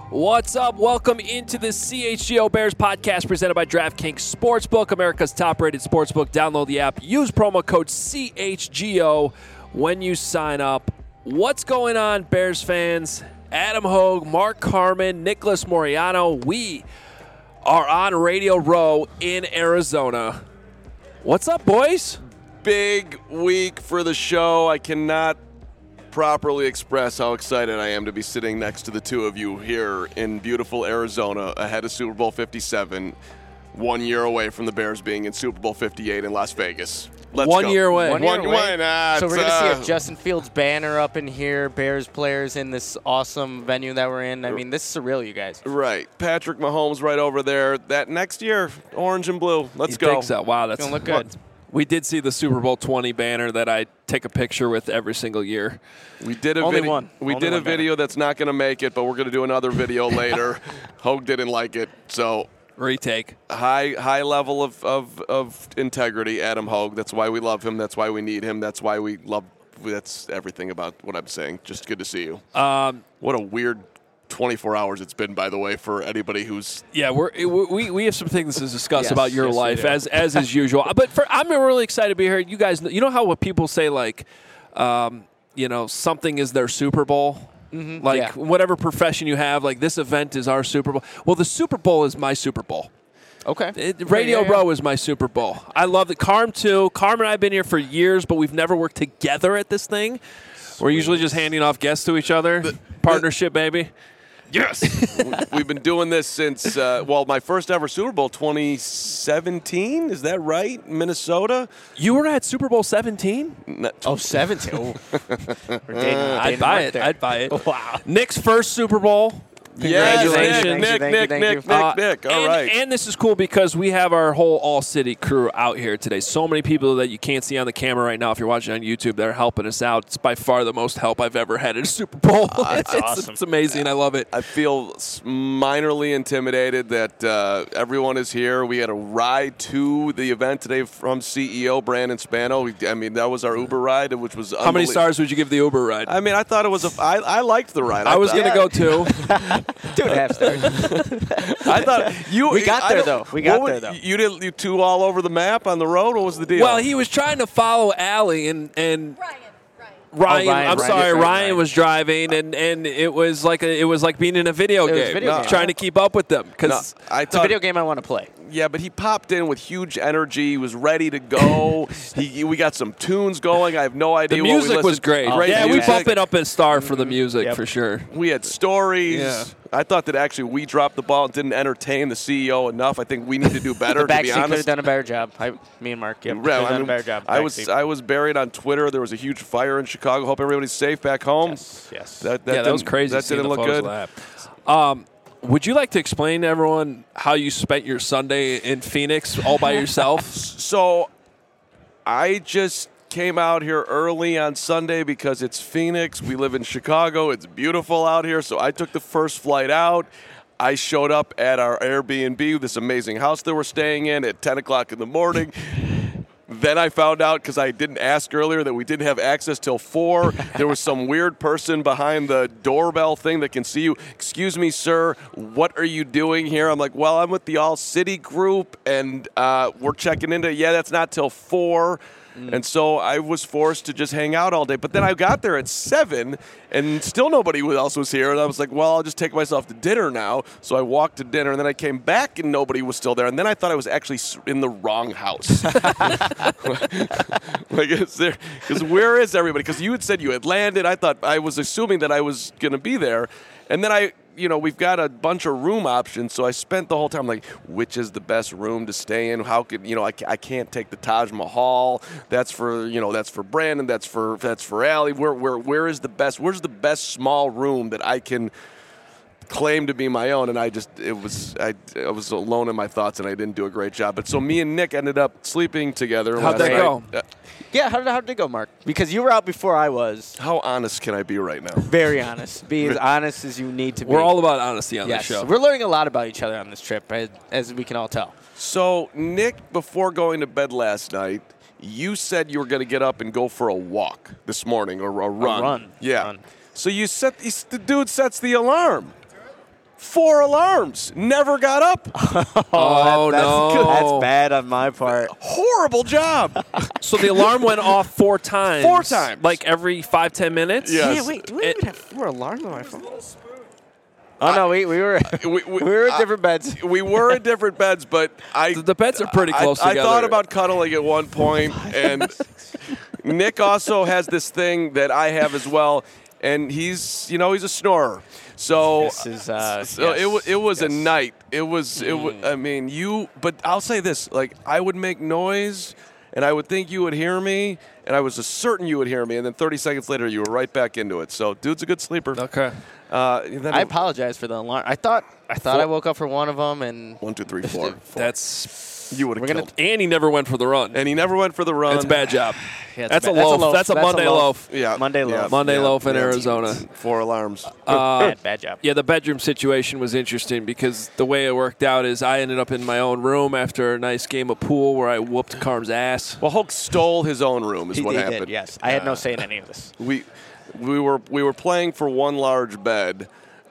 What's up? Welcome into the CHGO Bears podcast presented by DraftKings Sportsbook, America's top-rated sportsbook. Download the app. Use promo code CHGO when you sign up. What's going on, Bears fans? Adam Hogue, Mark Carman, Nicholas Moriano. We are on Radio Row in Arizona. What's up, boys? Big week for the show. I cannot properly express how excited I am to be sitting next to the two of you here in beautiful Arizona ahead of Super Bowl 57, 1 year away from the Bears being in Super Bowl 58 in Las Vegas. Let's 1 go. year away. One year away. So we're going to see a It's, Justin Fields banner up in here, Bears players in this awesome venue that we're in. I mean, this is surreal, you guys. right. Patrick Mahomes right over there. That next year, orange and blue. Let's You go. think so? Wow, that's Gonna look good. We did see the Super Bowl 20 banner that I take a picture with every single year. We did a Only video. one. We Only did a one banner. video that's not going to make it, but we're going to do another video later. Hogue didn't like it, so Retake. high level of integrity, Adam Hogue. That's why we love him. That's why we need him. That's why we love. That's everything about what I'm saying. Just good to see you. What a weird 24 hours it's been, by the way, for anybody who's. Yeah, we have some things to discuss Yes, about your yes, we life do. as is usual. But I'm really excited to be here. You guys, you know how what people say like, something is their Super Bowl. Like Yeah. whatever profession you have, like this event is our Super Bowl. Well, the Super Bowl is my Super Bowl. Okay. Radio Yeah. Row is my Super Bowl. I love it. Carm too. Carm and I have been here for years, but we've never worked together at this thing. We're usually just handing off guests to each other. Partnership, baby. Yes. We've been doing this since, my first ever Super Bowl, 2017. Is that right? Minnesota? You were at Super Bowl 17? Oh, 17. Oh. We're dating I'd buy Mark it. there. I'd buy it. Wow. Nick's first Super Bowl. Congratulations. Yes, Nick. All right. And this is cool because we have our whole all-city crew out here today. So many people that you can't see on the camera right now if you're watching on YouTube. They're helping us out. It's by far the most help I've ever had at a Super Bowl. That's awesome. It's amazing. I love it. I feel minorly intimidated that everyone is here. We had a ride to the event today from CEO Brandon Spano. That was our Uber ride, which was How many stars would you give the Uber ride? I thought it was I liked the ride. I was going to go too. 2.5 stars. I thought you. We got there, though. You did you two all over the map on the road. What was the deal? Well, he was trying to follow Allie and Ryan. Ryan was driving, and it was like being in a video game. video game. Trying to keep up with them No, because I It's a thought, video game I want to play. Yeah, but he popped in with huge energy. He was ready to go. We got some tunes going. I have no idea. the what we music was listened- great. Great Yeah, we music. bump it up a star for the music Yep. for sure. We had stories. Yeah. I thought that actually we dropped the ball and didn't entertain the CEO enough. I think we need to do better, The to be backseat could have honest. done a better job. Me and Mark, could Yeah, have done a better job. I Backseat. was buried on Twitter. There was a huge fire in Chicago. Hope everybody's safe back home. Yes. That was didn't- crazy. That seeing didn't the look photos good. of that. Would you like to explain to everyone how you spent your Sunday in Phoenix all by yourself? So I just came out here early on Sunday because it's Phoenix. We live in Chicago. It's beautiful out here. So I took the first flight out. I showed up at our Airbnb, this amazing house that we're staying in, at 10 o'clock in the morning. Then I found out, because I didn't ask earlier, that we didn't have access till 4. There was some weird person behind the doorbell thing that can see you. Excuse me, sir, what are you doing here? I'm like, well, I'm with the All City group, and we're checking into, that's not till 4. And so I was forced to just hang out all day. But then I got there at 7, and still nobody else was here. And I was like, well, I'll just take myself to dinner now. So I walked to dinner, and then I came back, and nobody was still there. And then I thought I was actually in the wrong house. Because where is everybody? Because you had said you had landed. I was assuming that I was going to be there. And then we've got a bunch of room options, so I spent the whole time like, which is the best room to stay in? How could I can't take the Taj Mahal. That's for Brandon. That's for Allie. Where is the best? Where's the best small room that I can claim to be my own? And I was alone in my thoughts, and I didn't do a great job. But so me and Nick ended up sleeping together. How'd last that night. go? Yeah, how did it go, Mark? Because you were out before I was. How honest can I be right now? Very honest. Be as honest as you need to be. We're all about honesty on yes. this show. We're learning a lot about each other on this trip, as we can all tell. So, Nick, before going to bed last night, you said you were going to get up and go for a walk this morning or a run. run. Yeah. Run. So the dude sets the alarm. 4 alarms. Never got up. Oh, no. That's bad on my part. Horrible job. So the alarm went off 4 times. 4 times. Like every 5-10 minutes? Yes. Yeah, wait, do we even have 4 alarms on my phone? Oh, no, we were we were in different beds. We were in different beds, but The beds are pretty close I together. thought about cuddling at one point, and Nick also has this thing that I have as well, and he's a snorer. So, This is, it was a yes. night. It was. I mean, But I'll say this: like, I would make noise, and I would think you would hear me, and I was certain you would hear me, and then 30 seconds later, you were right back into it. So, dude's a good sleeper. Okay. Then I apologize for the alarm. I thought I woke up for one of them, and 1, 2, 3, 4. That's You would have We're gonna- killed. and he never went for the run. And he never went for the run. That's a bad job. Yeah, That's a bad- loaf. That's a Monday loaf. Yeah, Monday loaf. Monday loaf in Arizona. 4 alarms. bad job. Yeah, the bedroom situation was interesting because the way it worked out is I ended up in my own room after a nice game of pool where I whooped Carm's ass. Well, Hulk stole his own room, is He what did, happened. yes. I had no say in any of this. We were playing for one large bed.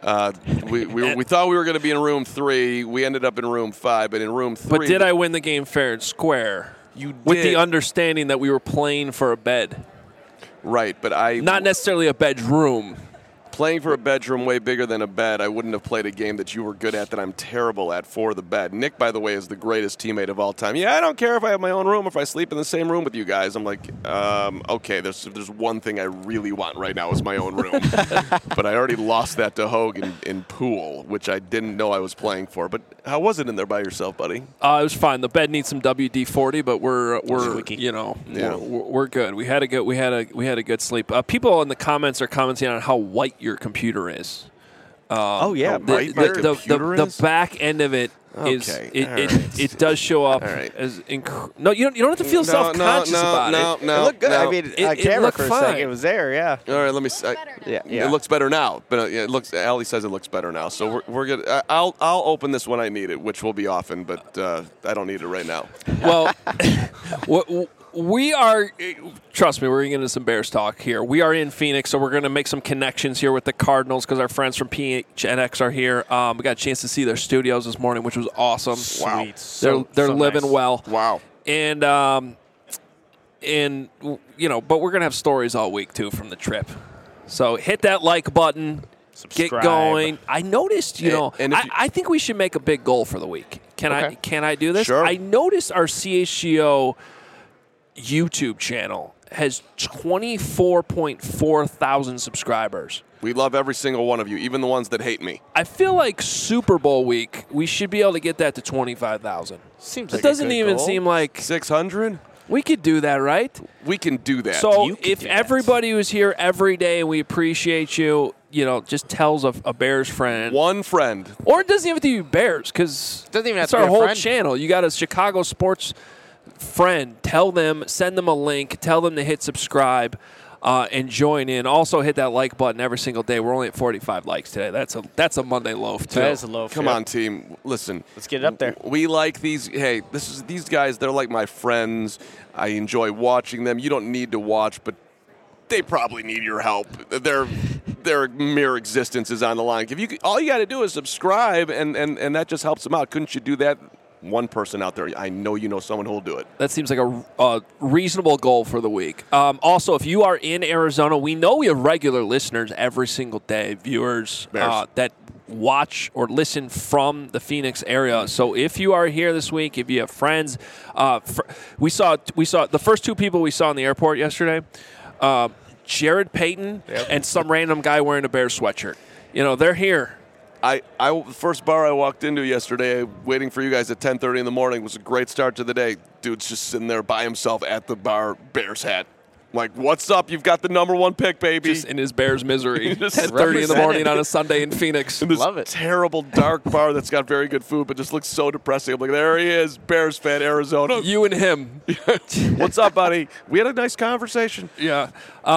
We thought we were going to be in room 3. We ended up in room 5, but in room 3. But did I win the game fair and square? You With did. the understanding that we were playing for a bed, Right, but I not necessarily a bedroom. playing for a bedroom way bigger than a bed. I wouldn't have played a game that you were good at that I'm terrible at for the bed. Nick, by the way, is the greatest teammate of all time. Yeah, I don't care if I have my own room, if I sleep in the same room with you guys. I'm like, okay, there's one thing I really want right now is my own room. But I already lost that to Hogue in pool, which I didn't know I was playing for. But how was it in there by yourself, buddy? It was fine. The bed needs some WD-40, but we're Squeaky. we're good. We had a good sleep. People in the comments are commenting on how white your computer is. Oh, yeah. The back end of it is Okay, it does show up All right. as no. You don't have to feel self-conscious about it. It looked good. No. I mean, It- on it camera looked for a fine. second, it was there, yeah. All right, let me see. Yeah. It looks better now, but it looks. Allie says it looks better now, so we're good. I'll open this when I need it, which will be often, but I don't need it right now. Well, we are. Trust me, we're going to get into some Bears talk here. We are in Phoenix, so we're going to make some connections here with the Cardinals because our friends from PHNX are here. We got a chance to see their studios this morning, which was awesome. Wow. Sweet. They're So living nice. well. Wow. And but we're gonna have stories all week too from the trip. So hit that like button, Subscribe. get going. I noticed, And if you- I think we should make a big goal for the week. Can I do this? Sure. I noticed our CHGO YouTube channel has 24.4 thousand subscribers. We love every single one of you, even the ones that hate me. I feel like Super Bowl week, we should be able to get that to 25,000. Seems It like doesn't a good even goal. seem like 600? we could do that, right? We can do that. So You can if do that. everybody was here every day and we appreciate you, just tells a Bears friend. one friend. Or it doesn't even have to be Bears because Doesn't even have it's to be our a whole friend. channel. You got a Chicago sports friend. Tell them, send them a link. Tell them to hit subscribe and join in. Also hit that like button every single day. We're only at 45 likes today. That's a Monday loaf too. That is a low. Come on, team. Listen. Let's get it up there. We like these. Hey, these guys. They're like my friends. I enjoy watching them. You don't need to watch, but they probably need your help. Their mere existence is on the line. All you got to do is subscribe, and that just helps them out. Couldn't you do that? One person out there. I know you know someone who will do it. That seems like a reasonable goal for the week. Also, if you are in Arizona, we know we have regular listeners every single day, viewers that watch or listen from the Phoenix area. So if you are here this week, if you have friends, we saw the first 2 people we saw in the airport yesterday, Jared Payton and some random guy wearing a Bears sweatshirt. They're here. The first bar I walked into yesterday, waiting for you guys at 10:30 in the morning, was a great start to the day. Dude's just sitting there by himself at the bar, Bears hat. Like, what's up? You've got the number 1 pick, baby. Just in his Bears misery. Just 10:30 in the morning on a Sunday in Phoenix. in this Love it. terrible dark bar that's got very good food, but just looks so depressing. I'm like, there he is, Bears fan, Arizona. You and him. What's up, buddy? We had a nice conversation. Yeah.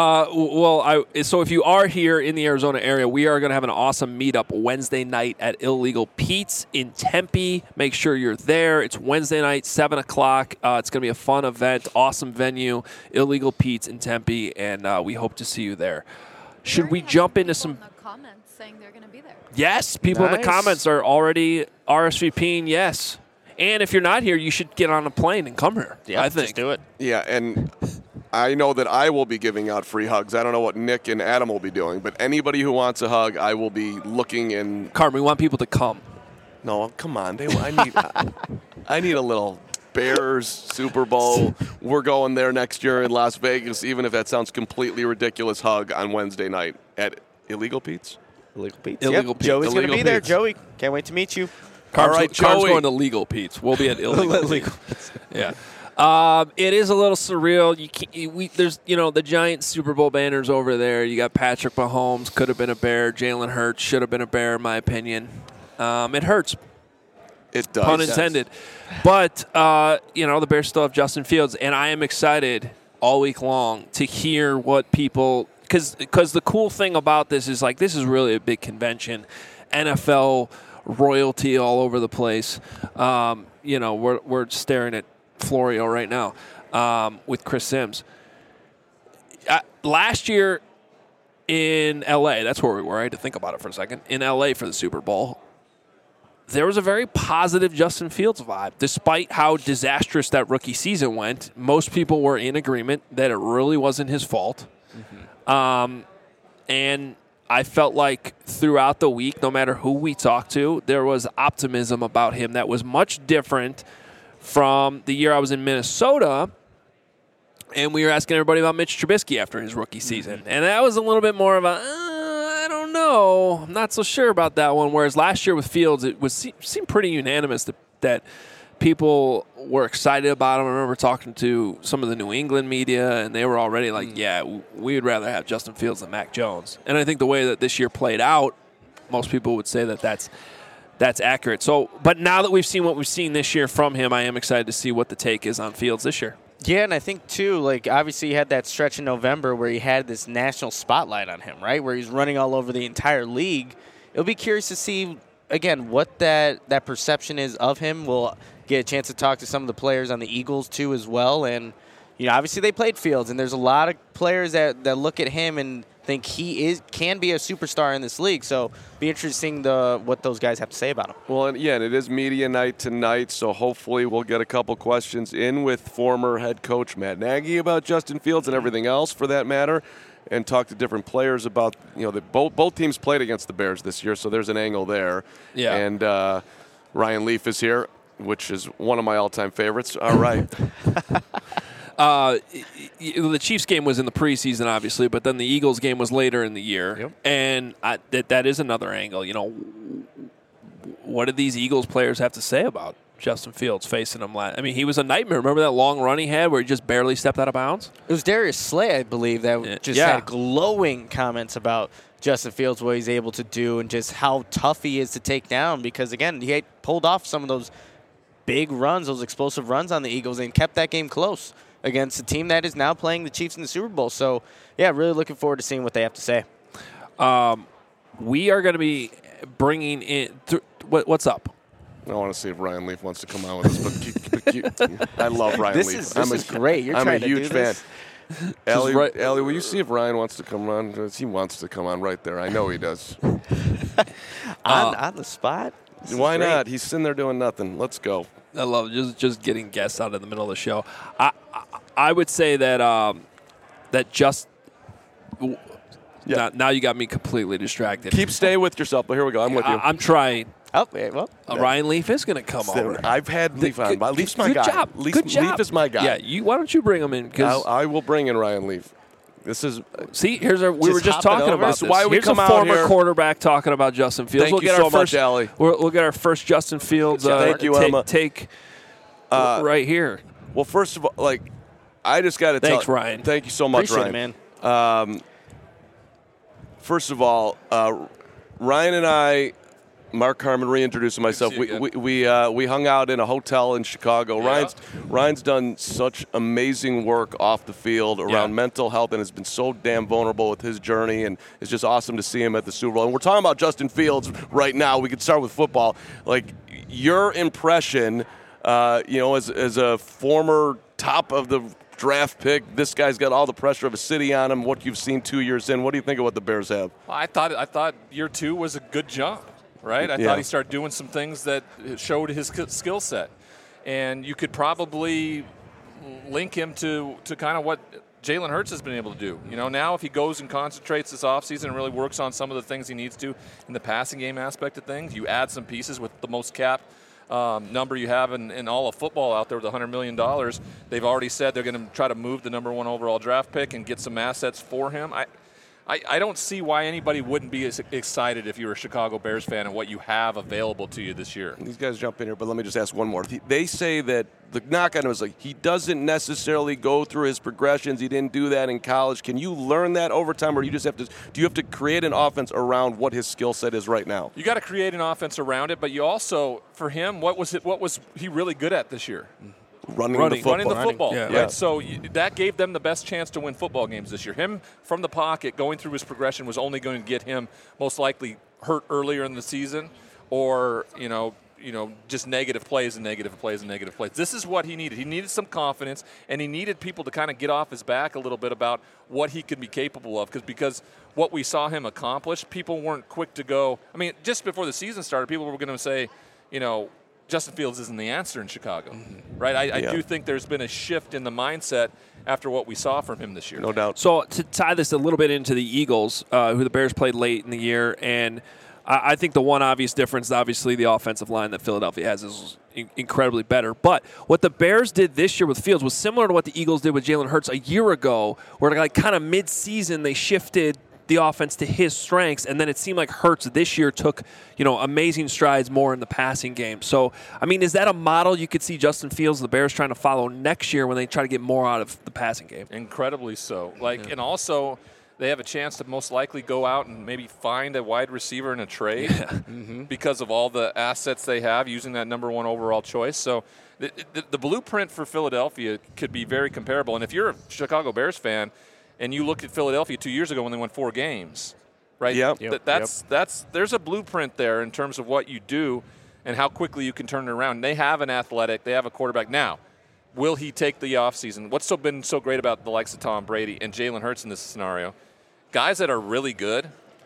So if you are here in the Arizona area, we are going to have an awesome meetup Wednesday night at Illegal Pete's in Tempe. Make sure you're there. It's Wednesday night, 7 o'clock. It's going to be a fun event, awesome venue, Illegal Pete's in Tempe, and we hope to see you there. Should we jump into some comments saying they're going to be there. Yes, people in the Nice. comments are already RSVPing. Yes, and if you're not here, you should get on a plane and come here. Yeah, I think. just do it. Yeah, and I know that I will be giving out free hugs. I don't know what Nick and Adam will be doing, but anybody who wants a hug, I will be looking and. Carmen, we want people to come. No, come on. I need a little Bears Super Bowl. We're going there next year in Las Vegas, even if that sounds completely ridiculous. Hug on Wednesday night at Illegal Pete's. Illegal Pete's. Illegal Pete's. Joey's going to Illegal be there. Pete's. Joey, can't wait to meet you. Carm's, All right, Carm's Joey. going to Legal Pete's. We'll be at Illegal Pete's. Yeah. It is a little surreal. There's the giant Super Bowl banners over there. You got Patrick Mahomes, could have been a Bear. Jalen Hurts should have been a Bear, in my opinion. It hurts. It does. Pun intended. But, the Bears still have Justin Fields, and I am excited all week long to hear what people – because the cool thing about this is, this is really a big convention. NFL royalty all over the place. We're staring at Florio right now with Chris Sims. Last year in L.A., that's where we were. I had to think about it for a second. In L.A. for the Super Bowl, there was a very positive Justin Fields vibe. Despite how disastrous that rookie season went, most people were in agreement that it really wasn't his fault. Mm-hmm. And I felt like throughout the week, no matter who we talked to, there was optimism about him that was much different from the year I was in Minnesota, and we were asking everybody about Mitch Trubisky after his rookie season. And that was a little bit more of a, I don't know, I'm not so sure about that one. Whereas last year with Fields, it seemed pretty unanimous that people were excited about him. I remember talking to some of the New England media, and they were already like, yeah, we would rather have Justin Fields than Mac Jones. And I think the way that this year played out, most people would say that that's accurate. So, but now that we've seen what we've seen this year from him, I am excited to see what the take is on Fields this year. Yeah, and I think, too, obviously he had that stretch in November where he had this national spotlight on him, right, where he's running all over the entire league. It'll be curious to see, again, what that perception is of him. We'll get a chance to talk to some of the players on the Eagles, too, as well. And, obviously they played Fields, and there's a lot of players that look at him and think he can be a superstar in this league. So be interesting what those guys have to say about him. Well, and it is media night tonight, so hopefully we'll get a couple questions in with former head coach Matt Nagy about Justin Fields and everything else for that matter, and talk to different players about, both teams played against the Bears this year, so there's an angle there. Yeah. And Ryan Leaf is here, which is one of my all-time favorites. All right. The Chiefs game was in the preseason, obviously, but then the Eagles game was later in the year. Yep. And that is another angle. What did these Eagles players have to say about Justin Fields facing him last? I mean, he was a nightmare. Remember that long run he had where he just barely stepped out of bounds? It was Darius Slay, I believe, that had glowing comments about Justin Fields, what he's able to do, and just how tough he is to take down. Because, again, he had pulled off some of those big runs, those explosive runs on the Eagles, and kept that game close against a team that is now playing the Chiefs in the Super Bowl. So, yeah, really looking forward to seeing what they have to say. We are going to be bringing in what's up? I want to see if Ryan Leaf wants to come on with us, but I love Ryan Leaf. This is great. You're I'm trying a huge to do fan. This? Allie, will you see if Ryan wants to come on? 'Cause he wants to come on right there. I know he does. On the spot? Why not? He's sitting there doing nothing. Let's go. I love just getting guests out in the middle of the show. I would say that now you got me completely distracted. Stay with yourself, but here we go. I'm with you. I'm trying. Oh, well. Ryan Leaf is going to come over. I've had Leaf on. Leaf's my guy. Good job. Good job. Leaf is my guy. Yeah, why don't you bring him in? I will bring in Ryan Leaf. This is we were just talking about this. Why we here's come a out former here. quarterback talking about Justin Fields. Thank you so much, Allie. We'll get our first Justin Fields Thank you, Emma. take right here. Well, first of all, I just got to tell. Thanks, Ryan. Thank you so much, Appreciate Ryan. it, man. First of all, Ryan and I, Mark Carmen, reintroducing myself. We hung out in a hotel in Chicago. Yeah. Ryan's done such amazing work off the field around mental health and has been so damn vulnerable with his journey, and it's just awesome to see him at the Super Bowl. And we're talking about Justin Fields right now. We could start with football. Your impression, as a former top of the draft pick. This guy's got all the pressure of a city on him. What you've seen 2 years in, what do you think of what the Bears have? Well, I thought year 2 was a good jump, right? I thought he started doing some things that showed his skill set. And you could probably link him to kind of what Jalen Hurts has been able to do. Now if he goes and concentrates this offseason and really works on some of the things he needs to in the passing game aspect of things, you add some pieces with the most cap number you have in all of football out there with $100 million. They've already said they're going to try to move the number 1 overall draft pick and get some assets for him. I don't see why anybody wouldn't be as excited if you're a Chicago Bears fan and what you have available to you this year. These guys jump in here, but let me just ask one more. They say that the knock on him is he doesn't necessarily go through his progressions. He didn't do that in college. Can you learn that over time, or do you have to create an offense around what his skill set is right now? You got to create an offense around it, but you also, for him, what was he really good at this year? Running the football. Yeah. Right? So that gave them the best chance to win football games this year. Him from the pocket going through his progression was only going to get him most likely hurt earlier in the season, or just negative plays. This is what he needed. He needed some confidence, and he needed people to kind of get off his back a little bit about what he could be capable of. Because what we saw him accomplish, people weren't quick to go. I mean, just before the season started, people were going to say, Justin Fields isn't the answer in Chicago, right? I do think there's been a shift in the mindset after what we saw from him this year. No doubt. So to tie this a little bit into the Eagles, who the Bears played late in the year, and I think the one obvious difference, obviously, the offensive line that Philadelphia has is incredibly better. But what the Bears did this year with Fields was similar to what the Eagles did with Jalen Hurts a year ago, where kind of mid-season they shifted the offense to his strengths, and then it seemed like Hurts this year took, amazing strides more in the passing game. So, I mean, is that a model you could see Justin Fields, the Bears, trying to follow next year when they try to get more out of the passing game? Incredibly so. And also they have a chance to most likely go out and maybe find a wide receiver in a trade because of all the assets they have using that number 1 overall choice. So the blueprint for Philadelphia could be very comparable. And if you're a Chicago Bears fan, and you look at Philadelphia 2 years ago when they won 4 games, right? There's a blueprint there in terms of what you do and how quickly you can turn it around. They have an athletic, they have a quarterback. Now, will he take the offseason? What's been so great about the likes of Tom Brady and Jalen Hurts in this scenario? Guys that are really good,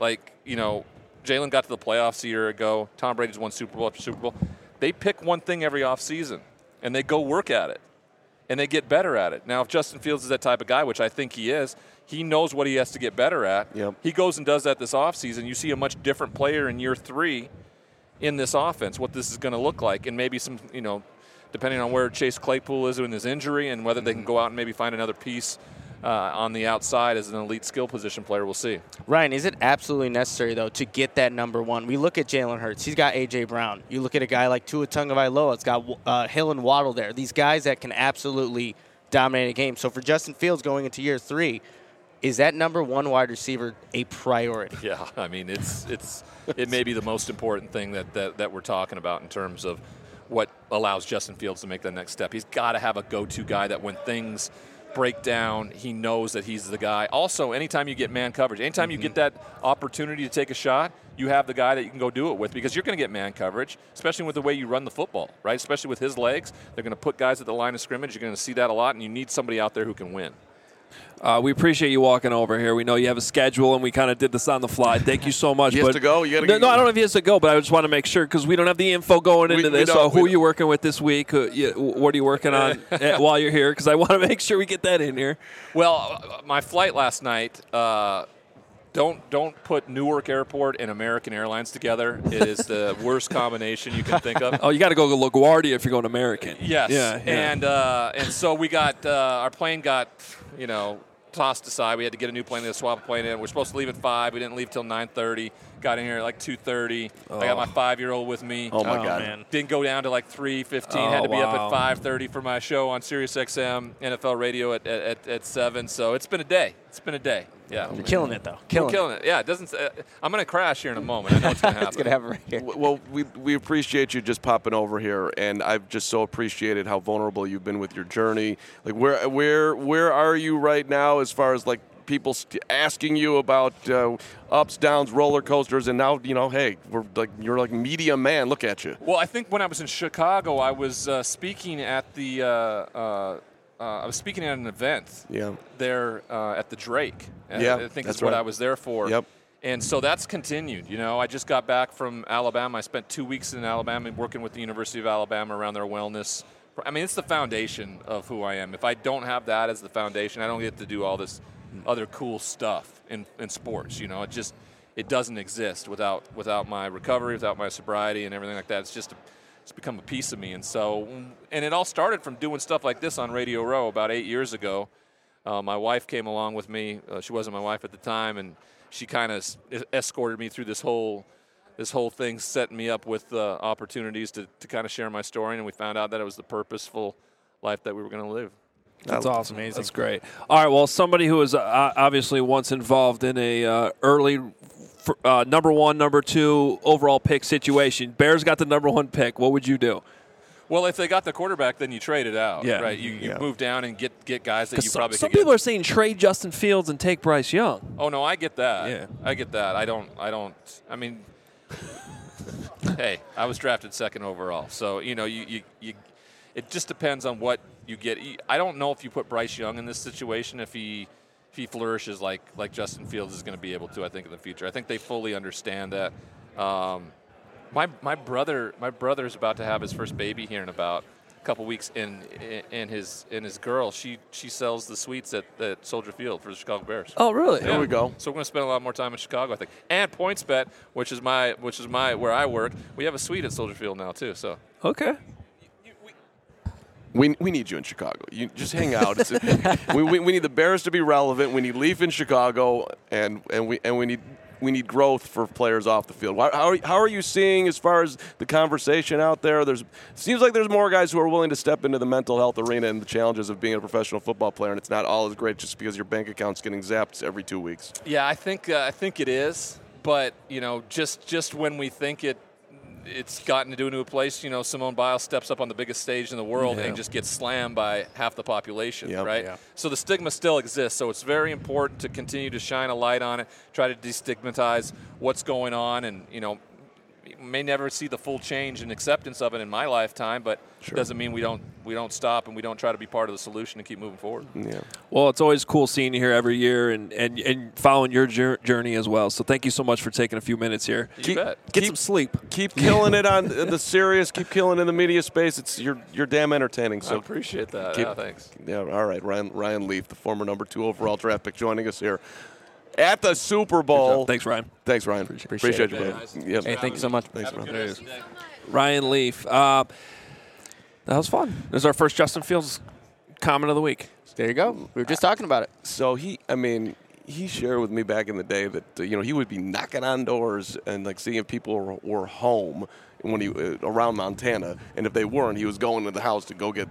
Jalen got to the playoffs a year ago. Tom Brady's won Super Bowl after Super Bowl. They pick one thing every offseason, and they go work at it. And they get better at it. Now, if Justin Fields is that type of guy, which I think he is, he knows what he has to get better at. Yep. He goes and does that this offseason. You see a much different player in year 3 in this offense, what this is going to look like. And maybe some, depending on where Chase Claypool is in his injury and whether they can go out and maybe find another piece on the outside as an elite skill position player, we'll see. Ryan, is it absolutely necessary, though, to get that number 1? We look at Jalen Hurts. He's got A.J. Brown. You look at a guy like Tua Tagovailoa. It's got Hill and Waddle there. These guys that can absolutely dominate a game. So for Justin Fields going into year 3, is that number 1 wide receiver a priority? Yeah, I mean, it may be the most important thing that we're talking about in terms of what allows Justin Fields to make that next step. He's got to have a go-to guy that when things break down, he knows that he's the guy. Also, anytime you get man coverage, anytime you get that opportunity to take a shot, you have the guy that you can go do it with, because you're going to get man coverage, especially with the way you run the football, right? Especially with his legs. They're going to put guys at the line of scrimmage. You're going to see that a lot, and you need somebody out there who can win. We appreciate you walking over here. We know you have a schedule, and we kind of did this on the fly. Thank you so much. He has to go? You gotta no, I don't know if he has to go, but I just want to make sure because we don't have the info going into this. So who are you working with this week? What are you working on while you're here? Because I want to make sure we get that in here. Well, my flight last night, don't put Newark Airport and American Airlines together. It is the worst combination you can think of. Oh, you got to go to LaGuardia if you're going American. Yes. Yeah. And so we got our plane got tossed aside. We had to get a new plane. They had to swap a plane in. We're supposed to leave at 5. We didn't leave till 9:30. Got in here at like 2:30. I got my 5-year-old with me. Oh my God! Man. Didn't go down to like 3:15. Had to be up at 5:30 for my show on SiriusXM NFL Radio at 7. So it's been a day. Yeah, You're killing it, though. Killing it. Yeah, it doesn't. I'm going to crash here in a moment. I know it's going to happen. It's going to happen right here. Well, we appreciate you just popping over here, and I've just so appreciated how vulnerable you've been with your journey. Like, where are you right now as far as like people asking you about ups, downs, roller coasters, and now hey, you're like media man. Look at you. Well, I think when I was in Chicago, I was speaking at the I was speaking at an event. Yeah. There at the Drake. Yeah, I think that's is what right. I was there for. Yep. And so that's continued. You know, I just got back from Alabama. I spent 2 weeks in Alabama working with the University of Alabama around their wellness. I mean, it's the foundation of who I am. If I don't have that as the foundation, I don't get to do all this other cool stuff in sports. You know, it doesn't exist without my recovery, without my sobriety and everything like that. It's become a piece of me. And so, and it all started from doing stuff like this on Radio Row about 8 years ago. My wife came along with me. She wasn't my wife at the time, and she kind of escorted me through this whole thing, setting me up with opportunities to kind of share my story, and we found out that it was the purposeful life that we were going to live. That's awesome. Amazing. That's great. All right, well, somebody who was obviously once involved in a early number 1, number 2 overall pick situation. Bears got the number 1 pick. What would you do? Well, if they got the quarterback, then you trade it out, Yeah. right? You move down and get guys that you probably some could get. people are saying trade Justin Fields and take Bryce Young. Oh no, I get that. Yeah. I get that. I don't. I mean, hey, I was drafted second overall, so you know, you it just depends on what you get. I don't know if you put Bryce Young in this situation if he flourishes like Justin Fields is going to be able to. I think in the future, I think they fully understand that. My brother's about to have his first baby here in about a couple weeks, and his girl, she sells the suites at Soldier Field for the Chicago Bears. Oh, really? There we go. So we're going to spend a lot more time in Chicago, I think. And PointsBet, which is my where I work, we have a suite at Soldier Field now too. So Okay. We need you in Chicago. You just hang out. We need the Bears to be relevant. We need Leaf in Chicago, and we need growth for players off the field. How are you seeing as far as the conversation out there? Seems like there's more guys who are willing to step into the mental health arena and the challenges of being a professional football player, and it's not all as great just because your bank account's getting zapped every 2 weeks. yeah, I think it is. But you know, just when we think it's gotten to a place, you know, Simone Biles steps up on the biggest stage in the world and just gets slammed by half the population, Yep. right? Yeah. So the stigma still exists. So it's very important to continue to shine a light on it, try to destigmatize what's going on, and you know, you may never see the full change and acceptance of it in my lifetime, but it doesn't mean we don't stop and we don't try to be part of the solution and keep moving forward. Yeah. Well, it's always cool seeing you here every year and following your journey as well. So thank you so much for taking a few minutes here. You bet. Get some sleep. Keep killing it on the serious. Keep killing it in the media space. You're damn entertaining. I So appreciate that. keep- Yeah, thanks. Yeah, all right. Ryan Leaf, the former number 2 overall draft pick, joining us here at the Super Bowl. Thanks, Ryan. Thanks, Ryan. Appreciate you, it. brother. Guys. Yep. Hey, thank you so much. Thanks, Have a man. good rest of the day. Ryan Leaf. That was fun. This is our first Justin Fields comment of the week. There you go. We were just talking about it. So he shared with me back in the day that he would be knocking on doors and like seeing if people were home when he around Montana, and if they weren't, he was going to the house to go get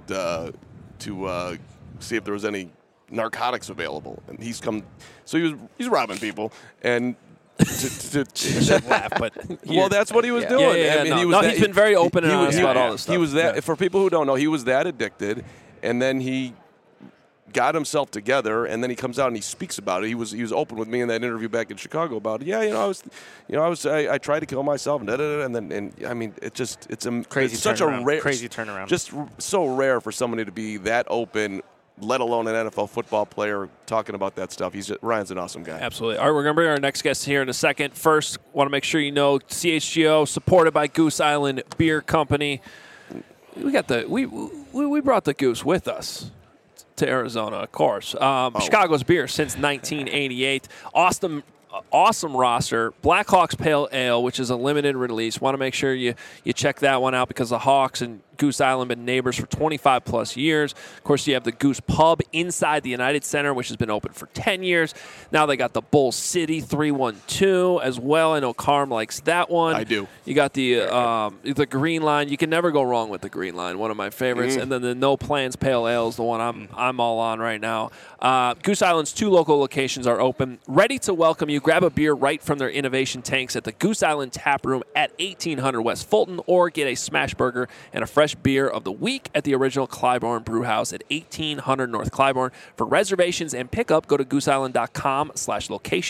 see if there was any narcotics available. And he's robbing people and. to Laugh, but well, that's what he was doing. Yeah, I mean, no. He's been very open and honest about all this stuff. He was that. Yeah. For people who don't know, he was that addicted, and then he got himself together, and then he comes out and he speaks about it. He was open with me in that interview back in Chicago about it. Yeah, I tried to kill myself, and I mean, it's such a rare, crazy turnaround. just so rare for somebody to be that open, let alone an NFL football player talking about that stuff. Ryan's an awesome guy. Absolutely. All right, we're going to bring our next guest here in a second. First, want to make sure you know CHGO, supported by Goose Island Beer Company. We got we brought the Goose with us to Arizona, of course. Chicago's beer since 1988. Awesome roster. Blackhawks Pale Ale, which is a limited release. Want to make sure you check that one out because the Hawks and Goose Island have been neighbors for 25 plus years. Of course, you have the Goose Pub inside the United Center, which has been open for 10 years. Now they got the Bull City 312 as well. I know Carm likes that one. I do. You got the Green Line. You can never go wrong with the Green Line, one of my favorites. And then the No Plans Pale Ale is the one I'm all on right now. Goose Island's 2 local locations are open, ready to welcome you. Grab a beer right from their innovation tanks at the Goose Island Tap Room at 1800 West Fulton, or get a smash burger and a fresh beer of the week at the original Clybourne Brew House at 1800 North Clybourne. For reservations and pickup, go to gooseisland.com/locations.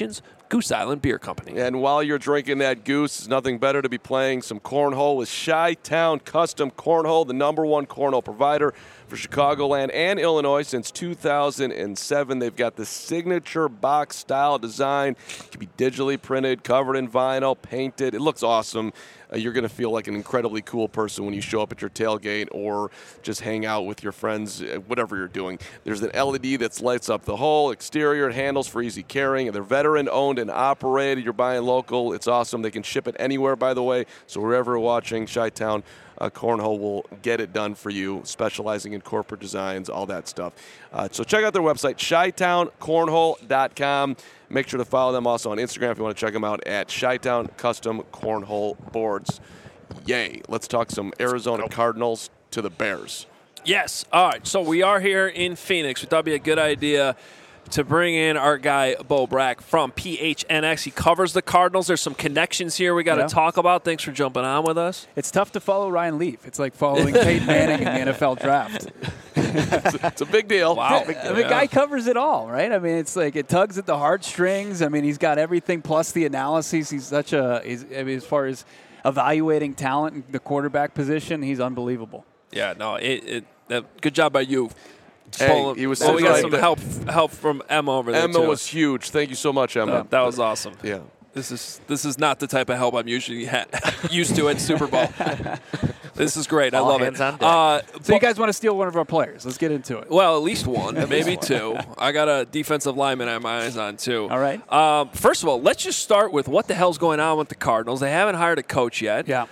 Goose Island Beer Company. And while you're drinking that Goose, it's nothing better to be playing some cornhole with Chi-Town Custom Cornhole, the #1 cornhole provider for Chicagoland and Illinois since 2007. They've got the signature box style design. It can be digitally printed, covered in vinyl, painted. It looks awesome. You're going to feel like an incredibly cool person when you show up at your tailgate or just hang out with your friends, whatever you're doing. There's an LED that lights up the whole exterior. It handles for easy carrying. They're veteran-owned and operated. You're buying local. It's awesome. They can ship it anywhere, by the way. So wherever you're watching, Chi-Town Cornhole will get it done for you, specializing in corporate designs, all that stuff. So check out their website, ChiTownCornhole.com. Make sure to follow them also on Instagram if you want to check them out at Chi-Town Custom Cornhole Boards. Yay. Let's talk some Arizona Cardinals to the Bears. Yes. All right. So we are here in Phoenix. We thought it'd be a good idea to bring in our guy, Bo Brack from PHNX. He covers the Cardinals. There's some connections here we got to talk about. Thanks for jumping on with us. It's tough to follow Ryan Leaf. It's like following Peyton Manning in the NFL draft. It's a big deal. Wow. The guy covers it all, right? I mean, it's like it tugs at the heartstrings. I mean, he's got everything plus the analyses. He's such a – I mean, as far as evaluating talent in the quarterback position, he's unbelievable. Yeah, no, good job by you. Hey, he was we got some help from Emma over there. Emma was huge. Thank you so much, Emma. That was awesome. Yeah. This is not the type of help I'm usually used to at Super Bowl. This is great. All I love hands it. on deck. So you guys want to steal one of our players? Let's get into it. Well, at least one, maybe two. I got a defensive lineman I have my eyes on, too. All right. First of all, let's just start with what the hell's going on with the Cardinals. They haven't hired a coach yet. Yeah.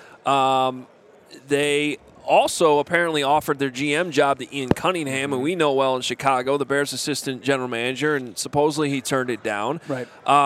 They also apparently offered their GM job to Ian Cunningham, and we know well in Chicago, the Bears' assistant general manager, and supposedly he turned it down. Right.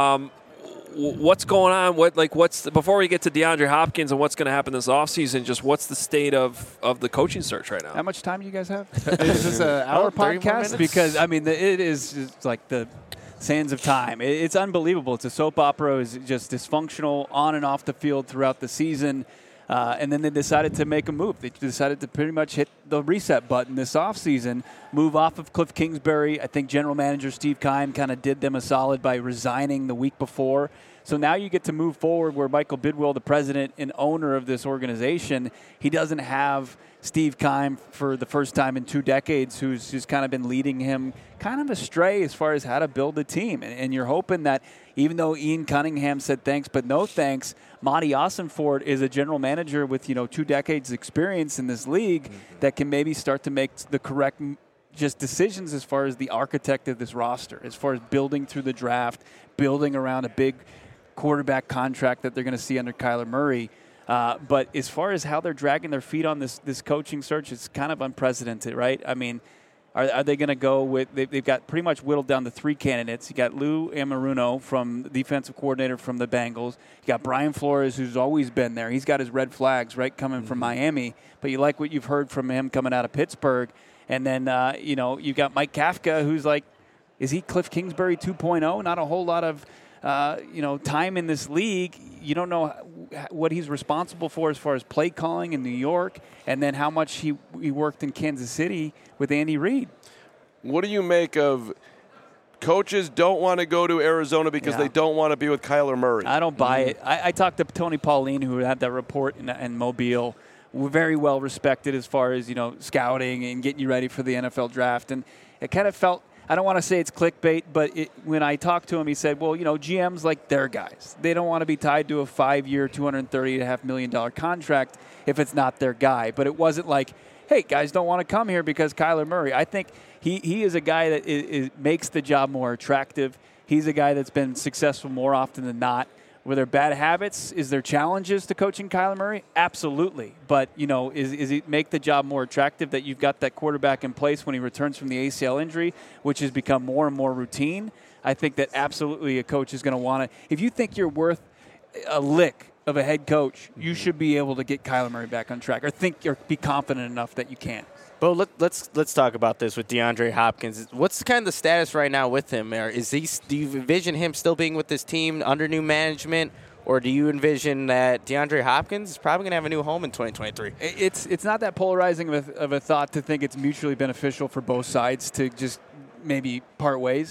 What's going on? Before we get to DeAndre Hopkins and what's going to happen this offseason, just what's the state of the coaching search right now? How much time do you guys have? Is this an hour 30 more podcast? minutes? Because, I mean, it is just like the sands of time. It's unbelievable. It's a soap opera. It's just dysfunctional on and off the field throughout the season. And then they decided to make a move. They decided to pretty much hit the reset button this offseason, move off of Cliff Kingsbury. I think general manager Steve Keim kind of did them a solid by resigning the week before. So now you get to move forward where Michael Bidwill, the president and owner of this organization, he doesn't have Steve Keim for the first time in 2 decades, who's just kind of been leading him kind of astray as far as how to build a team. And you're hoping that even though Ian Cunningham said thanks but no thanks, Monty Ossenford is a general manager with 2 decades experience in this league that can maybe start to make the correct just decisions as far as the architect of this roster, as far as building through the draft, building around a big quarterback contract that they're going to see under Kyler Murray. But as far as how they're dragging their feet on this coaching search, it's kind of unprecedented, right? I mean, are they going to go with – they've got pretty much whittled down to 3 candidates. You got Lou Anarumo from the defensive coordinator from the Bengals. You got Brian Flores, who's always been there. He's got his red flags, right, coming from Miami. But you like what you've heard from him coming out of Pittsburgh. And then, you've got Mike Kafka, who's like – is he Cliff Kingsbury 2.0? Not a whole lot of – time in this league. You don't know what he's responsible for as far as play calling in New York, and then how much he worked in Kansas City with Andy Reid. What do you make of coaches don't want to go to Arizona because they don't want to be with Kyler Murray? I don't buy it. I talked to Tony Pauline, who had that report in Mobile. We're very well respected as far as scouting and getting you ready for the NFL draft, and it kind of felt. I don't want to say it's clickbait, but when I talked to him, he said, well, GMs like their guys. They don't want to be tied to a 5-year, $230.5 million contract if it's not their guy. But it wasn't like, hey, guys don't want to come here because Kyler Murray. I think he is a guy that makes the job more attractive. He's a guy that's been successful more often than not. Were there bad habits? Is there challenges to coaching Kyler Murray? Absolutely. But, is it make the job more attractive that you've got that quarterback in place when he returns from the ACL injury, which has become more and more routine? I think that absolutely a coach is going to want to. If you think you're worth a lick of a head coach, you should be able to get Kyler Murray back on track or be confident enough that you can. Well, let's talk about this with DeAndre Hopkins. What's kind of the status right now with him? Do you envision him still being with this team under new management, or do you envision that DeAndre Hopkins is probably going to have a new home in 2023? It's not that polarizing of a thought to think it's mutually beneficial for both sides to just maybe part ways.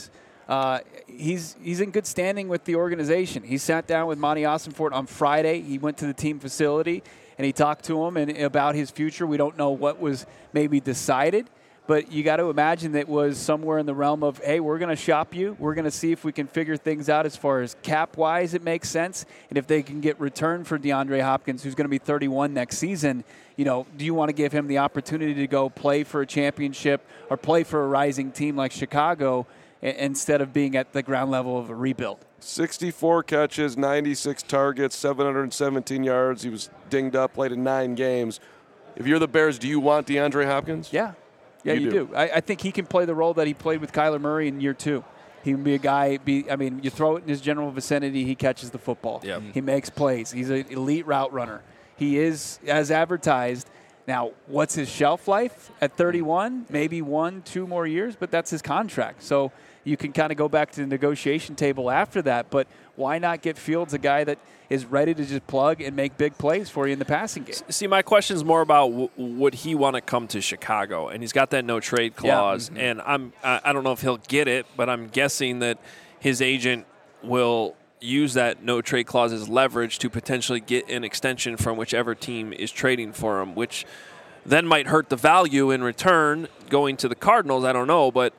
he's in good standing with the organization. He sat down with Monty Ossenfort on Friday. He went to the team facility, and he talked to him about his future. We don't know what was maybe decided, but you got to imagine that it was somewhere in the realm of, hey, we're going to shop you. We're going to see if we can figure things out as far as cap-wise it makes sense, and if they can get return for DeAndre Hopkins, who's going to be 31 next season. Do you want to give him the opportunity to go play for a championship or play for a rising team like Chicago instead of being at the ground level of a rebuild? 64 catches, 96 targets, 717 yards. He was dinged up, played in 9 games. If you're the Bears, do you want DeAndre Hopkins? Yeah. Yeah, you do. I think he can play the role that he played with Kyler Murray in year 2. He can be a guy, you throw it in his general vicinity, he catches the football. Yep. He makes plays. He's an elite route runner. He is, as advertised. Now, what's his shelf life at 31? Maybe 1-2 more years, but that's his contract. So you can kind of go back to the negotiation table after that, but why not get Fields a guy that is ready to just plug and make big plays for you in the passing game? See, my question is more about would he want to come to Chicago? And he's got that no-trade clause, and I don't know if he'll get it, but I'm guessing that his agent will use that no-trade clause as leverage to potentially get an extension from whichever team is trading for him, which then might hurt the value in return going to the Cardinals. I don't know, but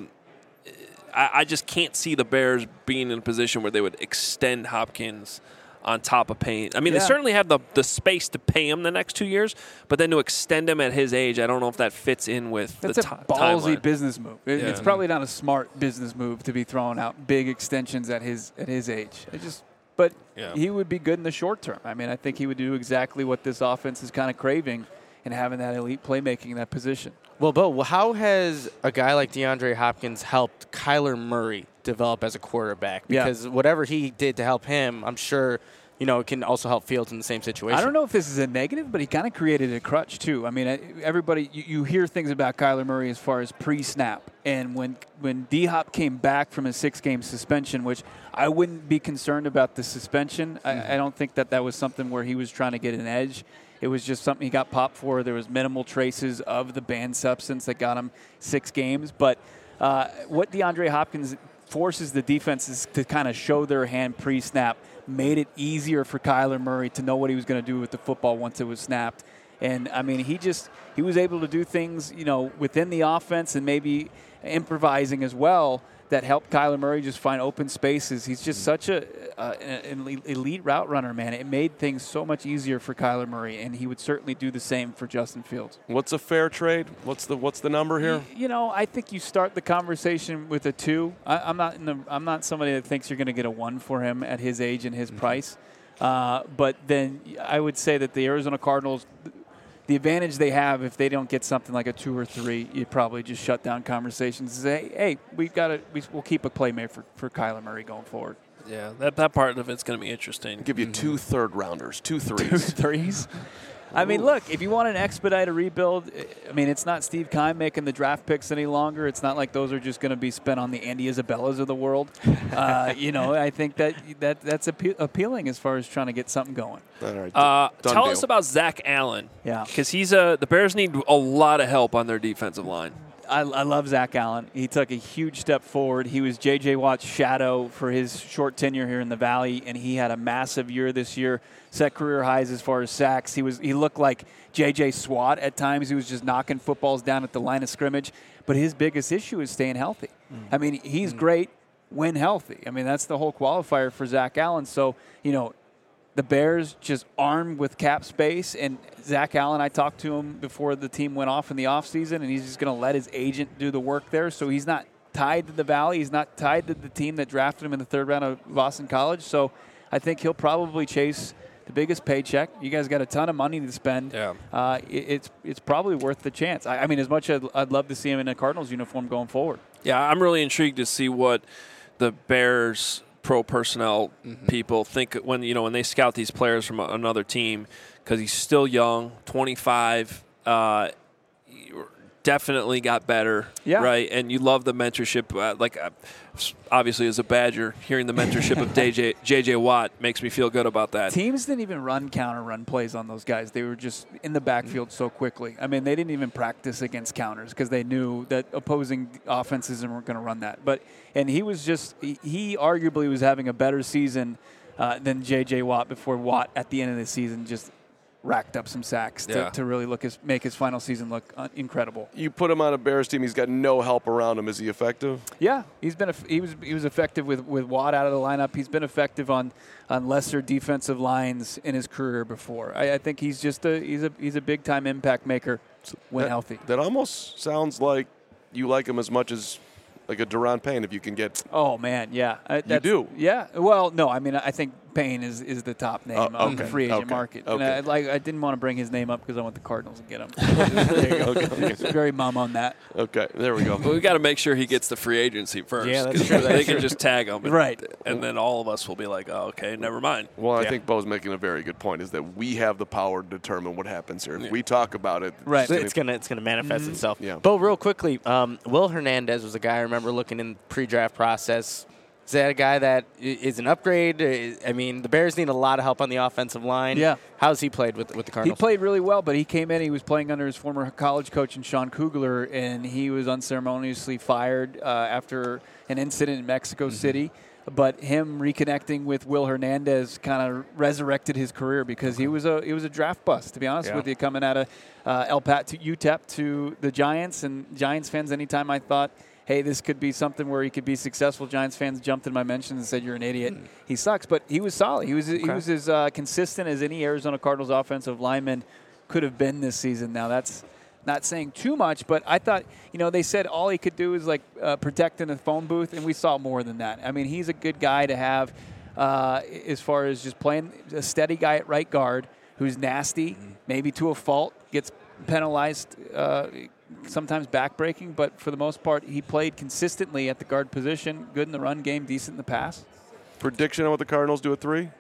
I just can't see the Bears being in a position where they would extend Hopkins on top of paying. I mean, they certainly have the space to pay him the next 2 years, but then to extend him at his age, I don't know if that fits in with That's the a ballsy timeline. business move. It's probably not a smart business move to be throwing out big extensions at his age. But he would be good in the short term. I mean, I think he would do exactly what this offense is kind of craving and having that elite playmaking in that position. Well, Bo, how has a guy like DeAndre Hopkins helped Kyler Murray develop as a quarterback? Because whatever he did to help him, I'm sure, it can also help Fields in the same situation. I don't know if this is a negative, but he kind of created a crutch, too. I mean, everybody, you hear things about Kyler Murray as far as pre-snap. And when D-Hop came back from his 6-game suspension, which I wouldn't be concerned about the suspension. I don't think that was something where he was trying to get an edge. It was just something he got popped for. There was minimal traces of the banned substance that got him 6 games. But what DeAndre Hopkins forces the defenses to kind of show their hand pre-snap made it easier for Kyler Murray to know what he was going to do with the football once it was snapped. And, I mean, he was able to do things, within the offense and maybe improvising as well that helped Kyler Murray just find open spaces. He's just such an elite route runner, man. It made things so much easier for Kyler Murray, and he would certainly do the same for Justin Fields. What's a fair trade? What's the number here? I think you start the conversation with a 2. I'm not somebody that thinks you're going to get a 1 for him at his age and his price. But then I would say that the Arizona Cardinals, the advantage they have if they don't get something like a 2 or 3, you probably just shut down conversations and say, hey, we'll keep a playmate for Kyler Murray going forward. Yeah, that part of it's going to be interesting. I'll give you 2 third-rounders, 2 threes. 2 threes. I mean, look, if you want an expedite rebuild, I mean, it's not Steve Keim making the draft picks any longer. It's not like those are just going to be spent on the Andy Isabellas of the world. I think that's appealing as far as trying to get something going. All right. Tell us about Zach Allen. Yeah. Because the Bears need a lot of help on their defensive line. I love Zach Allen. He took a huge step forward. He was J.J. Watt's shadow for his short tenure here in the Valley, and he had a massive year this year, set career highs as far as sacks. He looked like J.J. Swat at times. He was just knocking footballs down at the line of scrimmage. But his biggest issue is staying healthy. I mean, he's great when healthy. I mean, that's the whole qualifier for Zach Allen. So, the Bears just armed with cap space, and Zach Allen, I talked to him before the team went off in the offseason, and he's just going to let his agent do the work there. So he's not tied to the Valley. He's not tied to the team that drafted him in the 3rd round of Boston College. So I think he'll probably chase the biggest paycheck. You guys got a ton of money to spend. Yeah. It's probably worth the chance. I mean, as much as I'd love to see him in a Cardinals uniform going forward. Yeah, I'm really intrigued to see what the Bears pro personnel people think when they scout these players from another team, because he's still young, 25, definitely got better, Yeah. right? And you love the mentorship. Obviously, as a Badger, hearing the mentorship of J.J. Watt makes me feel good about that. Teams didn't even run counter run plays on those guys. They were just in the backfield so quickly. I mean, they didn't even practice against counters because they knew that opposing offenses weren't going to run that. And he was he arguably was having a better season than J.J. Watt before Watt at the end of the season just racked up some sacks to really make his final season look incredible. You put him on a Bears team, he's got no help around him. Is he effective? Yeah, he was effective with Watt out of the lineup. He's been effective on lesser defensive lines in his career before. I think he's just he's a big time impact maker when healthy. That almost sounds like you like him as much as like a Deron Payne if you can get. Oh man, yeah, you do. Yeah, well, no, I mean I think Payne is the top name on the free agent market. Okay. And I didn't want to bring his name up because I want the Cardinals to get him. There you go. It's very mum on that. Okay, there we go. But we got to make sure he gets the free agency first. Yeah, that's 'cause true. They can just tag him, Right. And then all of us will be like, "Oh, okay, never mind." Well, I Yeah. think Bo's making a very good point. Is that we have the power to determine what happens here. If we talk about it, Right. It's gonna manifest itself. Yeah. Bo, real quickly, Will Hernandez was a guy I remember looking in the pre-draft process. Is that a guy that is an upgrade? I mean, the Bears need a lot of help on the offensive line. Yeah. How's he played with the He Cardinals? played really well, but he came in. He was playing under his former college coach, Sean Kugler, and he was unceremoniously fired after an incident in Mexico City. But him reconnecting with Will Hernandez kind of resurrected his career because he was a draft bust, to be honest with you, coming out of UTEP to the Giants. And Giants fans, anytime I thought, hey, this could be something where he could be successful, Giants fans jumped in my mentions and said, you're an idiot. He sucks, but he was solid. He was as consistent as any Arizona Cardinals offensive lineman could have been this season. Now, that's not saying too much, but I thought, they said all he could do is protect in the phone booth, and we saw more than that. I mean, he's a good guy to have as far as just playing a steady guy at right guard who's nasty, maybe to a fault, gets penalized, sometimes backbreaking, but for the most part, he played consistently at the guard position, good in the run game, decent in the pass. Prediction on what the Cardinals do at 3?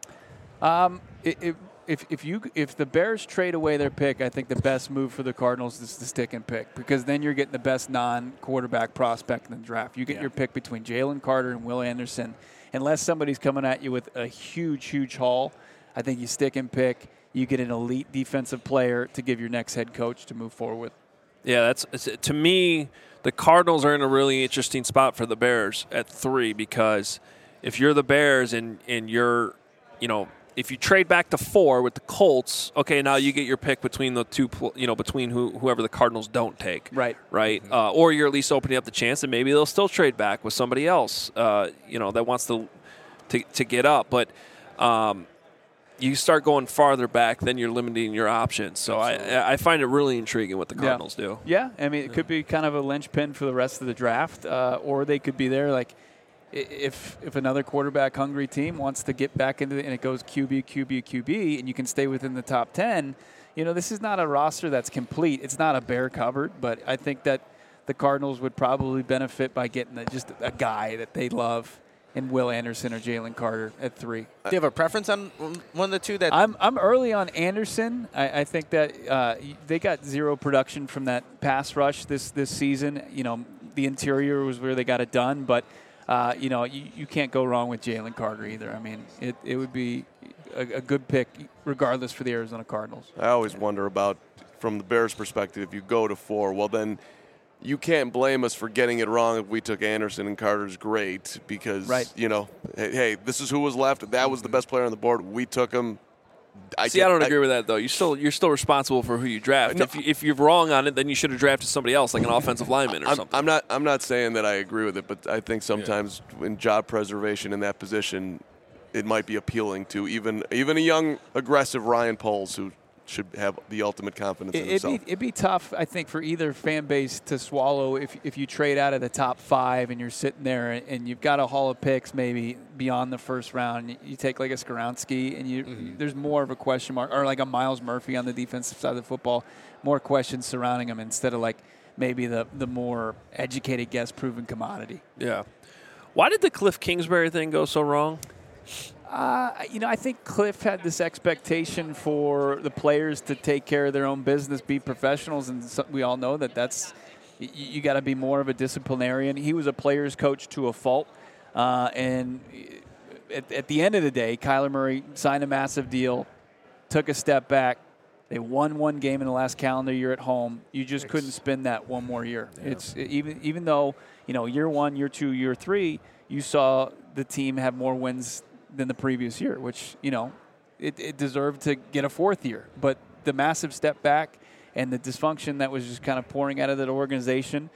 If the Bears trade away their pick, I think the best move for the Cardinals is to stick and pick because then you're getting the best non-quarterback prospect in the draft. You get your pick between Jalen Carter and Will Anderson. Unless somebody's coming at you with a huge haul, I think you stick and pick. You get an elite defensive player to give your next head coach to move forward with. Yeah, to me, the Cardinals are in a really interesting spot for the Bears at 3 because if you're the Bears and you're, if you trade back to 4 with the Colts, okay, now you get your pick between the two, between whoever the Cardinals don't take. Right. Or you're at least opening up the chance that maybe they'll still trade back with somebody else, that wants to get up. But you start going farther back, then you're limiting your options. So I find it really intriguing what the Cardinals do. Yeah, I mean, it could be kind of a linchpin for the rest of the draft, or they could be there if another quarterback-hungry team wants to get back into it and it goes QB, and you can stay within the top 10, this is not a roster that's complete. It's not a bare cupboard, but I think that the Cardinals would probably benefit by getting just a guy that they love in Will Anderson or Jalen Carter at 3. Do you have a preference on one of the two? That I'm early on Anderson. I think that they got zero production from that pass rush this season. The interior was where they got it done, but you can't go wrong with Jalen Carter either. I mean, it would be a good pick regardless for the Arizona Cardinals. I always wonder about, from the Bears' perspective, if you go to 4, well then you can't blame us for getting it wrong if we took Anderson and Carter's great because, hey, this is who was left. That was the best player on the board. We took him. I don't agree with that, though. You're still responsible for who you draft. No. If you're wrong on it, then you should have drafted somebody else, like an offensive lineman or something. I'm not saying that I agree with it, but I think sometimes in job preservation in that position, it might be appealing to even a young, aggressive Ryan Poles who should have the ultimate confidence in himself. It'd be tough, I think, for either fan base to swallow if you trade out of the top 5 and you're sitting there and you've got a haul of picks maybe beyond the first round. You take like a Skoronski and there's more of a question mark, or like a Miles Murphy on the defensive side of the football, more questions surrounding him instead of like maybe the more educated guess proven commodity. Yeah. Why did the Cliff Kingsbury thing go so wrong? I think Cliff had this expectation for the players to take care of their own business, be professionals, and we all know that's you got to be more of a disciplinarian. He was a player's coach to a fault, and at the end of the day, Kyler Murray signed a massive deal, took a step back. They won one game in the last calendar year at home. You just couldn't spin that one more year. Yeah. It's even though year 1, year 2, year 3, you saw the team have more wins than the previous year, which, it deserved to get a 4th year. But the massive step back and the dysfunction that was just kind of pouring out of that organization,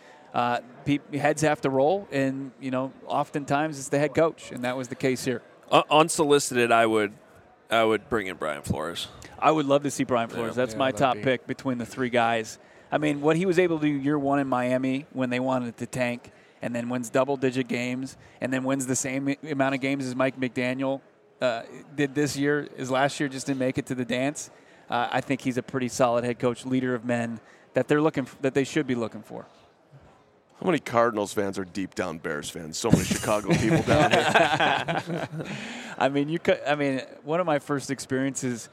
heads have to roll, and, oftentimes it's the head coach, and that was the case here. Unsolicited, I would bring in Brian Flores. I would love to see Brian Flores. That's my top pick between the 3 guys. I mean, what he was able to do year 1 in Miami when they wanted to tank, and then wins double-digit games, and then wins the same amount of games as Mike McDaniel did this year, as last year just didn't make it to the dance. I think he's a pretty solid head coach, leader of men that they should be looking for. How many Cardinals fans are deep down Bears fans? So many Chicago people down here. I mean, one of my first experiences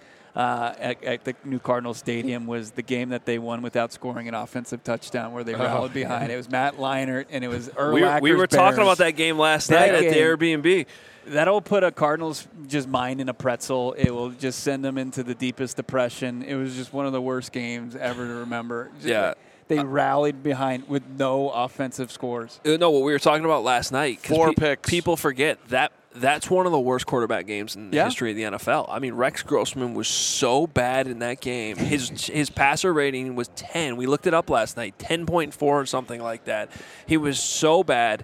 at the new Cardinal Stadium was the game that they won without scoring an offensive touchdown, where they rallied behind. It was Matt Leinart, and it was Urlacher's We were talking Bears. about that game last night at the Airbnb. That'll put a Cardinals just mind in a pretzel. It will just send them into the deepest depression. It was just one of the worst games ever to remember. They rallied behind with no offensive scores. No, what we were talking about last night. 4 picks. People forget that's one of the worst quarterback games in the history of the NFL. I mean, Rex Grossman was so bad in that game. His passer rating was 10. We looked it up last night, 10.4 or something like that. He was so bad.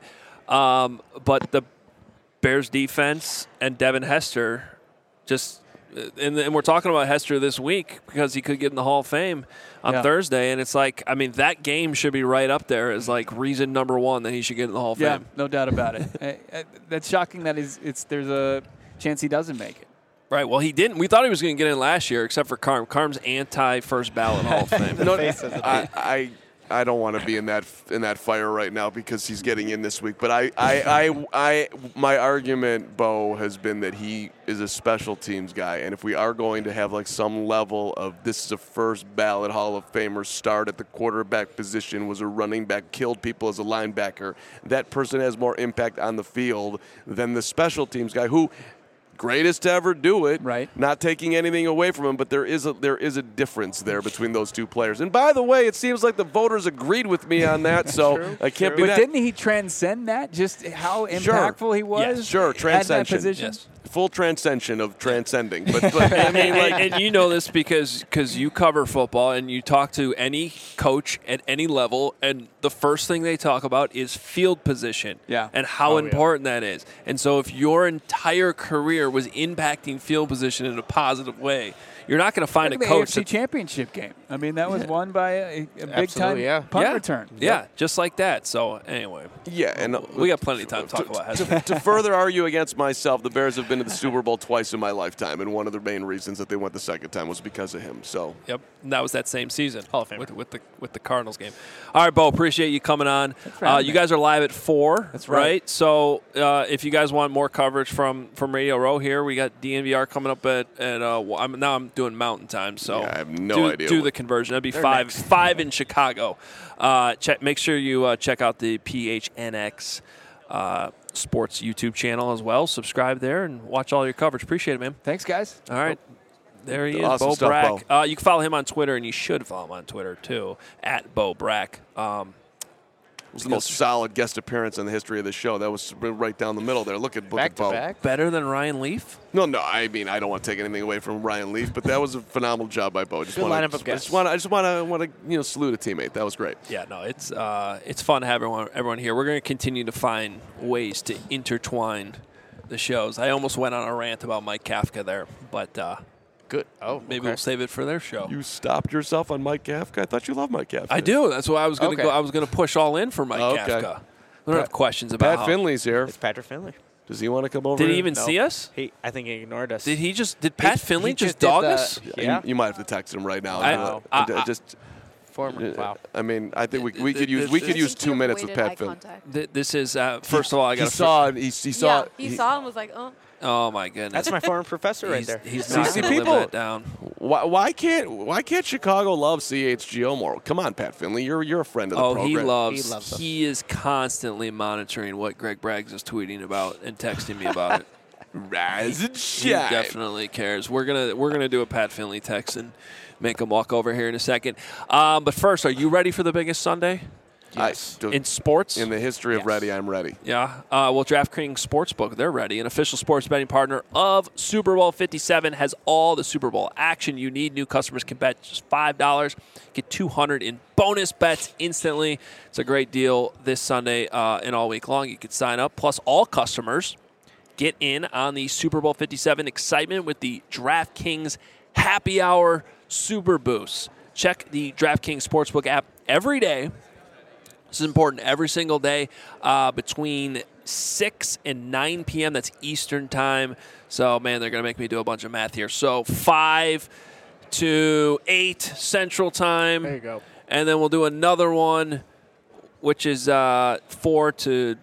But the Bears defense and Devin Hester just and we're talking about Hester this week because he could get in the Hall of Fame on Thursday, and it's like, I mean, that game should be right up there as like reason number 1 that he should get in the Hall of Fame. No doubt about it. That's shocking that there's a chance he doesn't make it. Right. Well, he didn't. We thought he was going to get in last year, except for Carm. Carm's anti-first ballot Hall of Fame. No, I don't want to be in that fire right now because he's getting in this week. But my argument, Bo, has been that he is a special teams guy, and if we are going to have like some level of this is a first ballot Hall of Famer, start at the quarterback position, was a running back, killed people as a linebacker, that person has more impact on the field than the special teams guy who. Greatest to ever do it. Right. Not taking anything away from him, but there is a difference there between those 2 players. And by the way, it seems like the voters agreed with me on that, so I can't be But that. didn't he transcend that? Just how impactful he was? Yes, sure, transcension. Yes. Full transcension of transcending. But I mean, like, and you know this because you cover football and you talk to any coach at any level, and the first thing they talk about is field position and how important that is. And so if your entire career was impacting field position in a positive way, you're not going to find a coach. The AFC Championship game. I mean, that was won by a big-time punt return. Yeah, just like that. So, anyway. Yeah, and we got plenty of time to talk about Hester. To further argue against myself, the Bears have been to the Super Bowl twice in my lifetime, and one of the main reasons that they went the second time was because of him. So. Yep, and that was that same season. Hall of Fame. With the Cardinals game. All right, Bo, appreciate you coming on. You guys are live at 4. That's right. So if you guys want more coverage from Radio Row here, we got DNVR coming up at I'm doing Mountain Time, so I have no idea. Do the conversion. That'd be 5 in Chicago. Make sure you check out the PHNX Sports YouTube channel as well. Subscribe there and watch all your coverage. Appreciate it, man. Thanks, guys. All right. There he is, Awesome Bo stuff, Brack. Bo. You can follow him on Twitter, and you should follow him on Twitter, too, at Bo Brack. It was the most solid guest appearance in the history of the show. That was right down the middle there. Look at Bo. Back-to-back. Better than Ryan Leaf? No, I mean, I don't want to take anything away from Ryan Leaf, but that was a phenomenal job by Bo. Good lineup of guests. I just want to salute a teammate. That was great. Yeah, no, it's fun to have everyone here. We're going to continue to find ways to intertwine the shows. I almost went on a rant about Mike Kafka there, but Good. Oh, maybe we'll save it for their show. You stopped yourself on Mike Kafka? I thought you loved Mike Kafka. I do. That's why I was going to Okay. go. I was going to push all in for Mike Kafka. We don't have questions about Pat Finley's here. It's Patrick Finley. Does he want to come over? Did he here? even see us? I think he ignored us. Did Pat Finley he just just did dog the- us? Yeah. You might have to text him right now. Wow. I mean, I think we could use 2 minutes with Pat Finley. This is first of all, I got He saw and He saw and was like, oh. Oh my goodness. That's my former professor right there. He's See, not see, going to live people- that down. Why can't Chicago love CHGO more? Come on, Pat Finley, you're a friend of the program. He loves us. He is constantly monitoring what Greg Braggs is tweeting about and texting me about it. Rise and He shine. definitely cares. We're gonna do a Pat Finley text and make him walk over here in a second. But first, are you ready for the biggest Sunday in sports? In the history of ready, I'm ready. Yeah. Well, DraftKings Sportsbook, they're ready. An official sports betting partner of Super Bowl 57 has all the Super Bowl action you need. New customers can bet just $5, get $200 in bonus bets instantly. It's a great deal this Sunday and all week long. You can sign up. Plus, all customers get in on the Super Bowl 57 excitement with the DraftKings Happy Hour Super Boost. Check the DraftKings Sportsbook app every day. This is important every single day between 6 and 9 p.m. That's Eastern time. So, man, they're going to make me do a bunch of math here. So 5 to 8 Central time. There you go. And then we'll do another one, which is 4 to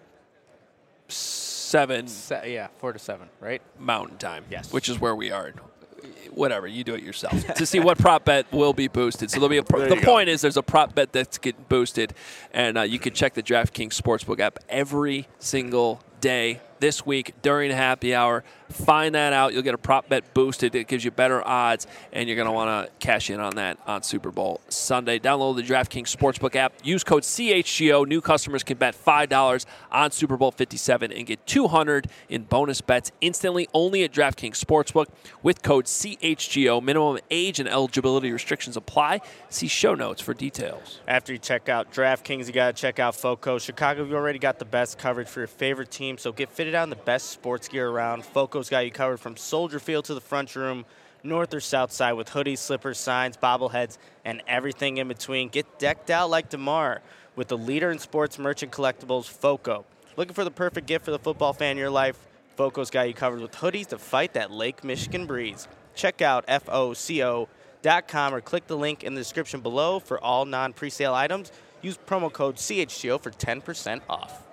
7 4 to 7, right? Mountain time. Yes. Which is where we are. Whatever, you do it yourself to see what prop bet will be boosted. So there'll be the point is there's a prop bet that's getting boosted, and you can check the DraftKings Sportsbook app every single day this week during happy hour. Find that out. You'll get a prop bet boosted. It gives you better odds, and you're going to want to cash in on that on Super Bowl Sunday. Download the DraftKings Sportsbook app. Use code CHGO. New customers can bet $5 on Super Bowl 57 and get $200 in bonus bets instantly only at DraftKings Sportsbook with code CHGO. Minimum age and eligibility restrictions apply. See show notes for details. After you check out DraftKings, you got to check out FOCO. Chicago, you already got the best coverage for your favorite team, so get fitted out in the best sports gear around. FOCO's got you covered from Soldier Field to the front room, north or south side, with hoodies, slippers, signs, bobbleheads, and everything in between. Get decked out like DeMar with the leader in sports merchant collectibles, FOCO. Looking for the perfect gift for the football fan in your life? FOCO's got you covered with hoodies to fight that Lake Michigan breeze. Check out FOCO.com or click the link in the description below for all non-presale items. Use promo code CHGO for 10% off.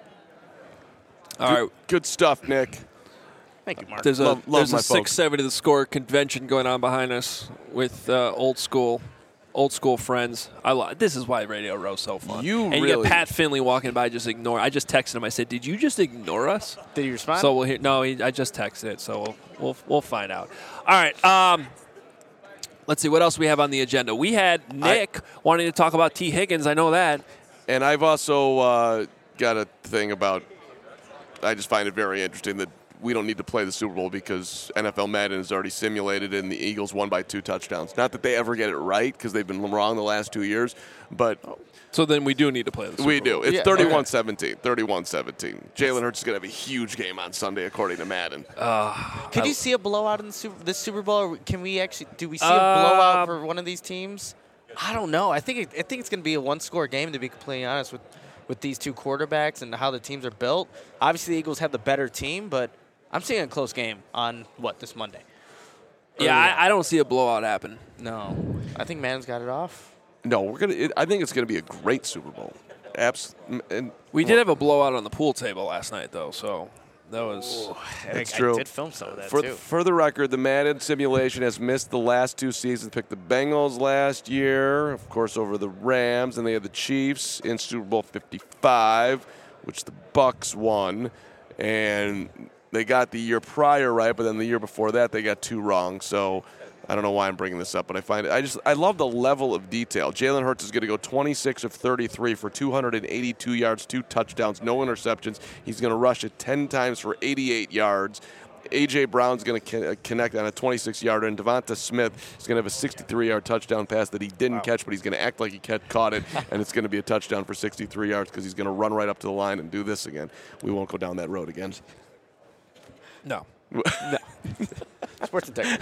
All right. Good stuff, Nick. Thank you, Mark. There's a Love my folks. 670 The Score convention going on behind us with old school friends. This is why Radio Row's so fun. You really- get Pat Finley walking by, just ignore. I just texted him. I said, "Did you just ignore us?" Did he respond? So we'll hear. No, I just texted it. So we'll find out. All right. Let's see what else we have on the agenda. We had Nick wanting to talk about T. Higgins. I know that. And I've also got a thing about, I just find it very interesting that we don't need to play the Super Bowl because NFL Madden is already simulated and the Eagles won by 2 touchdowns. Not that they ever get it right because they've been wrong the last 2 years, but So then we do need to play the Super Bowl. we do. It's Yeah, 31-17. 31-17. Jalen Hurts is going to have a huge game on Sunday according to Madden. Could you see a blowout in the Super Bowl? Or can we actually do we see a blowout for one of these teams? I don't know. I think it's going to be a one-score game, to be completely honest, with these two quarterbacks and how the teams are built. Obviously, the Eagles have the better team, but I'm seeing a close game on this Monday. Yeah, I don't see a blowout happen. No, I think Madden's got it off. No, I think it's going to be a great Super Bowl. And We did have a blowout on the pool table last night, though. So that was. That's I true. did film some of that For, too. for the record, the Madden simulation has missed the last 2 seasons. Picked the Bengals last year, of course, over the Rams, and they had the Chiefs in Super Bowl 55, which the Bucks won, and they got the year prior right, but then the year before that they got 2 wrong. So I don't know why I'm bringing this up, but I find it. I love the level of detail. Jalen Hurts is going to go 26 of 33 for 282 yards, 2 touchdowns, no interceptions. He's going to rush it 10 times for 88 yards. A.J. Brown's going to connect on a 26-yarder, and Devonta Smith is going to have a 63-yard touchdown pass that he didn't catch, but he's going to act like he caught it, and it's going to be a touchdown for 63 yards because he's going to run right up to the line and do this again. We won't go down that road again. No. Sports integrity.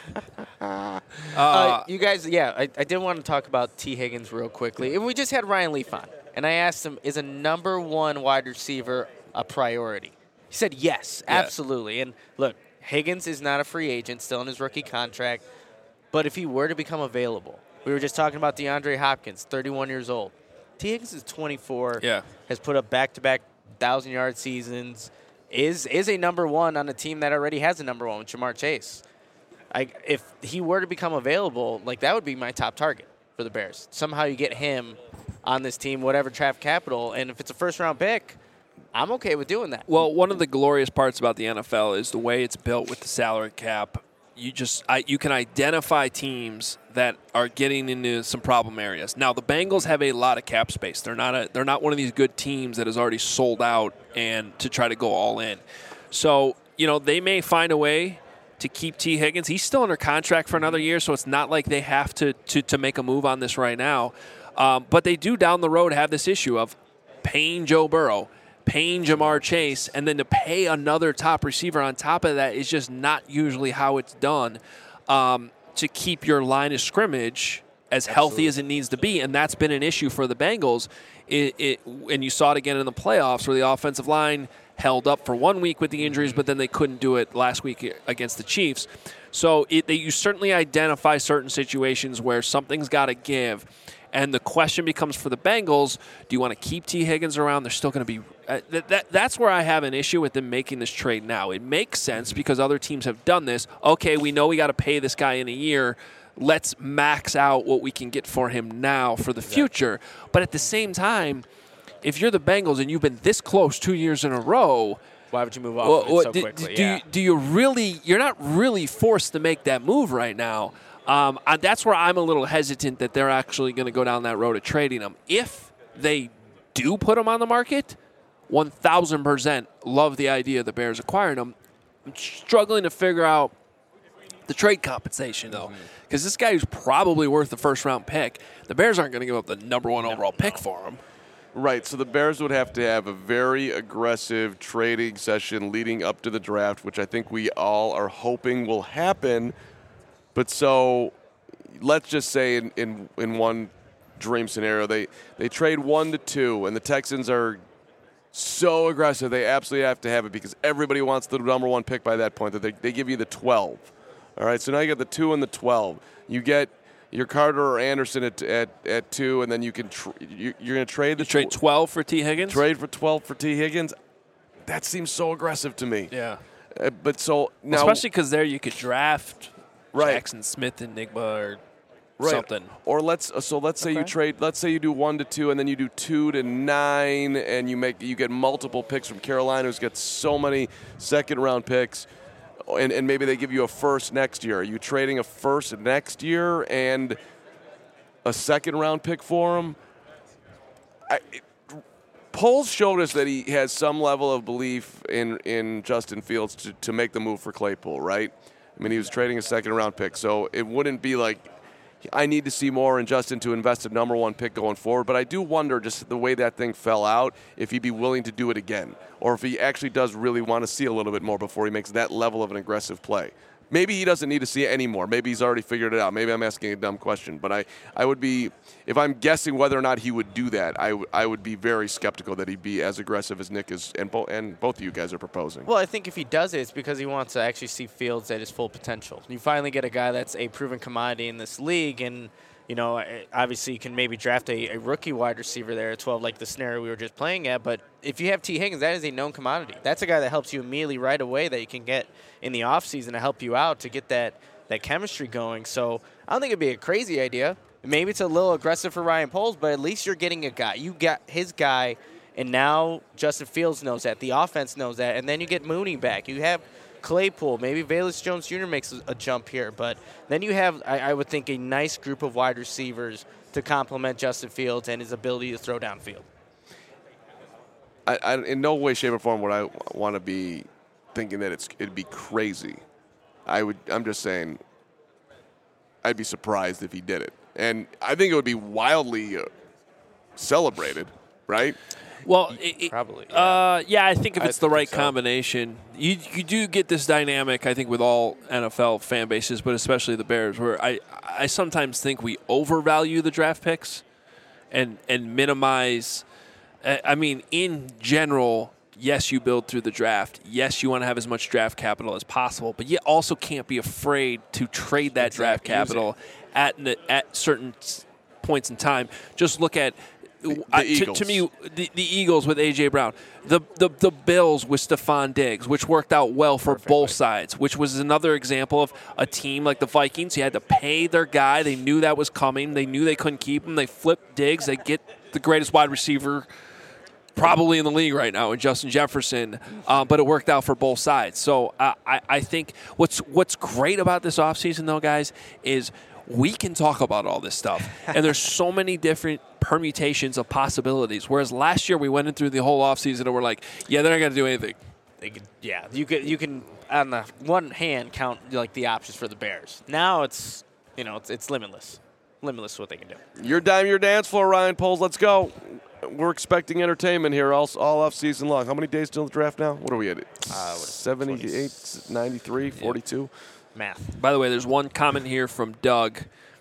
You guys, I did want to talk about T. Higgins real quickly. We just had Ryan Leaf on, and I asked him, is a number 1 wide receiver a priority? He said yes, absolutely. And look, Higgins is not a free agent, still in his rookie contract, but if he were to become available, we were just talking about DeAndre Hopkins, 31 years old. T. Higgins is 24, has put up back-to-back 1,000-yard seasons, is a number one on a team that already has a number one with Jamar Chase. If he were to become available, like that would be my top target for the Bears. Somehow you get him on this team, whatever draft capital, and if it's a first-round pick, I'm okay with doing that. Well, one of the glorious parts about the NFL is the way it's built with the salary cap. You can identify teams that are getting into some problem areas. Now, the Bengals have a lot of cap space. They're not one of these good teams that has already sold out and to try to go all in. So, they may find a way to keep T. Higgins. He's still under contract for another year, so it's not like they have to make a move on this right now. But they do down the road have this issue of paying Joe Burrow, paying Jamar Chase, and then to pay another top receiver on top of that is just not usually how it's done to keep your line of scrimmage as healthy as it needs to be. And that's been an issue for the Bengals. And you saw it again in the playoffs where the offensive line held up for 1 week with the injuries, but then they couldn't do it last week against the Chiefs. So you certainly identify certain situations where something's got to give. And the question becomes for the Bengals, do you want to keep T. Higgins around? They're still going to be that's where I have an issue with them making this trade now. It makes sense because other teams have done this. Okay, we know we got to pay this guy in a year. Let's max out what we can get for him now for the future. But at the same time, if you're the Bengals and you've been this close 2 years in a row, why would you move off of it so quickly? Do you really – you're not really forced to make that move right now. That's where I'm a little hesitant that they're actually going to go down that road of trading him. If they do put him on the market, 1,000% love the idea of the Bears acquiring him. I'm struggling to figure out the trade compensation, though, because this guy is probably worth the first-round pick. The Bears aren't going to give up the number one overall pick for him. Right, so the Bears would have to have a very aggressive trading session leading up to the draft, which I think we all are hoping will happen. But so let's just say in one dream scenario, they trade 1 to 2, and the Texans are so aggressive they absolutely have to have it because everybody wants the number one pick by that point. That they give you the 12. All right, so now you got the 2 and the 12. You get your Carter or Anderson at 2, and then you can you're going to trade the trade 12 for T. Higgins. Trade for 12 for T. Higgins. That seems so aggressive to me. Yeah, but so now, especially because there you could draft. Right. Jackson Smith, Enigma, or something. Or let's say you trade. Let's say you do 1 to 2, and then you do 2 to 9, and you get multiple picks from Carolina, who's got so many second-round picks, and maybe they give you a first next year. Are you trading a first next year and a second-round pick for him? Polls showed us that he has some level of belief in Justin Fields to make the move for Claypool, right? I mean, he was trading a second-round pick, so it wouldn't be like I need to see more in Justin to invest a number one pick going forward. But I do wonder, just the way that thing fell out, if he'd be willing to do it again, or if he actually does really want to see a little bit more before he makes that level of an aggressive play. Maybe he doesn't need to see it anymore. Maybe he's already figured it out. Maybe I'm asking a dumb question. But I would be, if I'm guessing whether or not he would do that, I would be very skeptical that he'd be as aggressive as Nick is and both of you guys are proposing. Well, I think if he does it, it's because he wants to actually see Fields at his full potential. You finally get a guy that's a proven commodity in this league, and obviously you can maybe draft a rookie wide receiver there at 12, like the scenario we were just playing at. But if you have T. Higgins, that is a known commodity. That's a guy that helps you immediately right away that you can get in the offseason to help you out to get that chemistry going. So I don't think it'd be a crazy idea. Maybe it's a little aggressive for Ryan Poles, but at least you're getting a guy. You got his guy, and now Justin Fields knows that. The offense knows that. And then you get Mooney back. You have Claypool. Maybe Velus Jones Jr. makes a jump here. But then you have, I would think, a nice group of wide receivers to complement Justin Fields and his ability to throw downfield. I in no way, shape, or form would I want to be thinking that it'd be crazy. I'm just saying I'd be surprised if he did it. And I think it would be wildly celebrated, right? Well, probably. Yeah, I think if it's the right combination, you do get this dynamic, I think, with all NFL fan bases, but especially the Bears, where I sometimes think we overvalue the draft picks and minimize. I mean, in general, yes, you build through the draft. Yes, you want to have as much draft capital as possible, but you also can't be afraid to trade that draft capital at certain points in time. Just look at Eagles. To me, the Eagles with A.J. Brown, the Bills with Stephon Diggs, which worked out well for both sides, which was another example of a team like the Vikings. You had to pay their guy. They knew that was coming. They knew they couldn't keep him. They flipped Diggs. They get the greatest wide receiver probably in the league right now in Justin Jefferson, but it worked out for both sides. So I think what's great about this offseason, though, guys, is we can talk about all this stuff. And there's so many different permutations of possibilities. Whereas last year we went in through the whole offseason and we're like, yeah, they're not going to do anything. You can on the one hand count like the options for the Bears. Now it's limitless what they can do. Your dime, your dance floor, Ryan Poles. Let's go. We're expecting entertainment here all off season long. How many days till the draft now? What are we at? 78, 93, 42? Math. By the way, there's one comment here from Doug.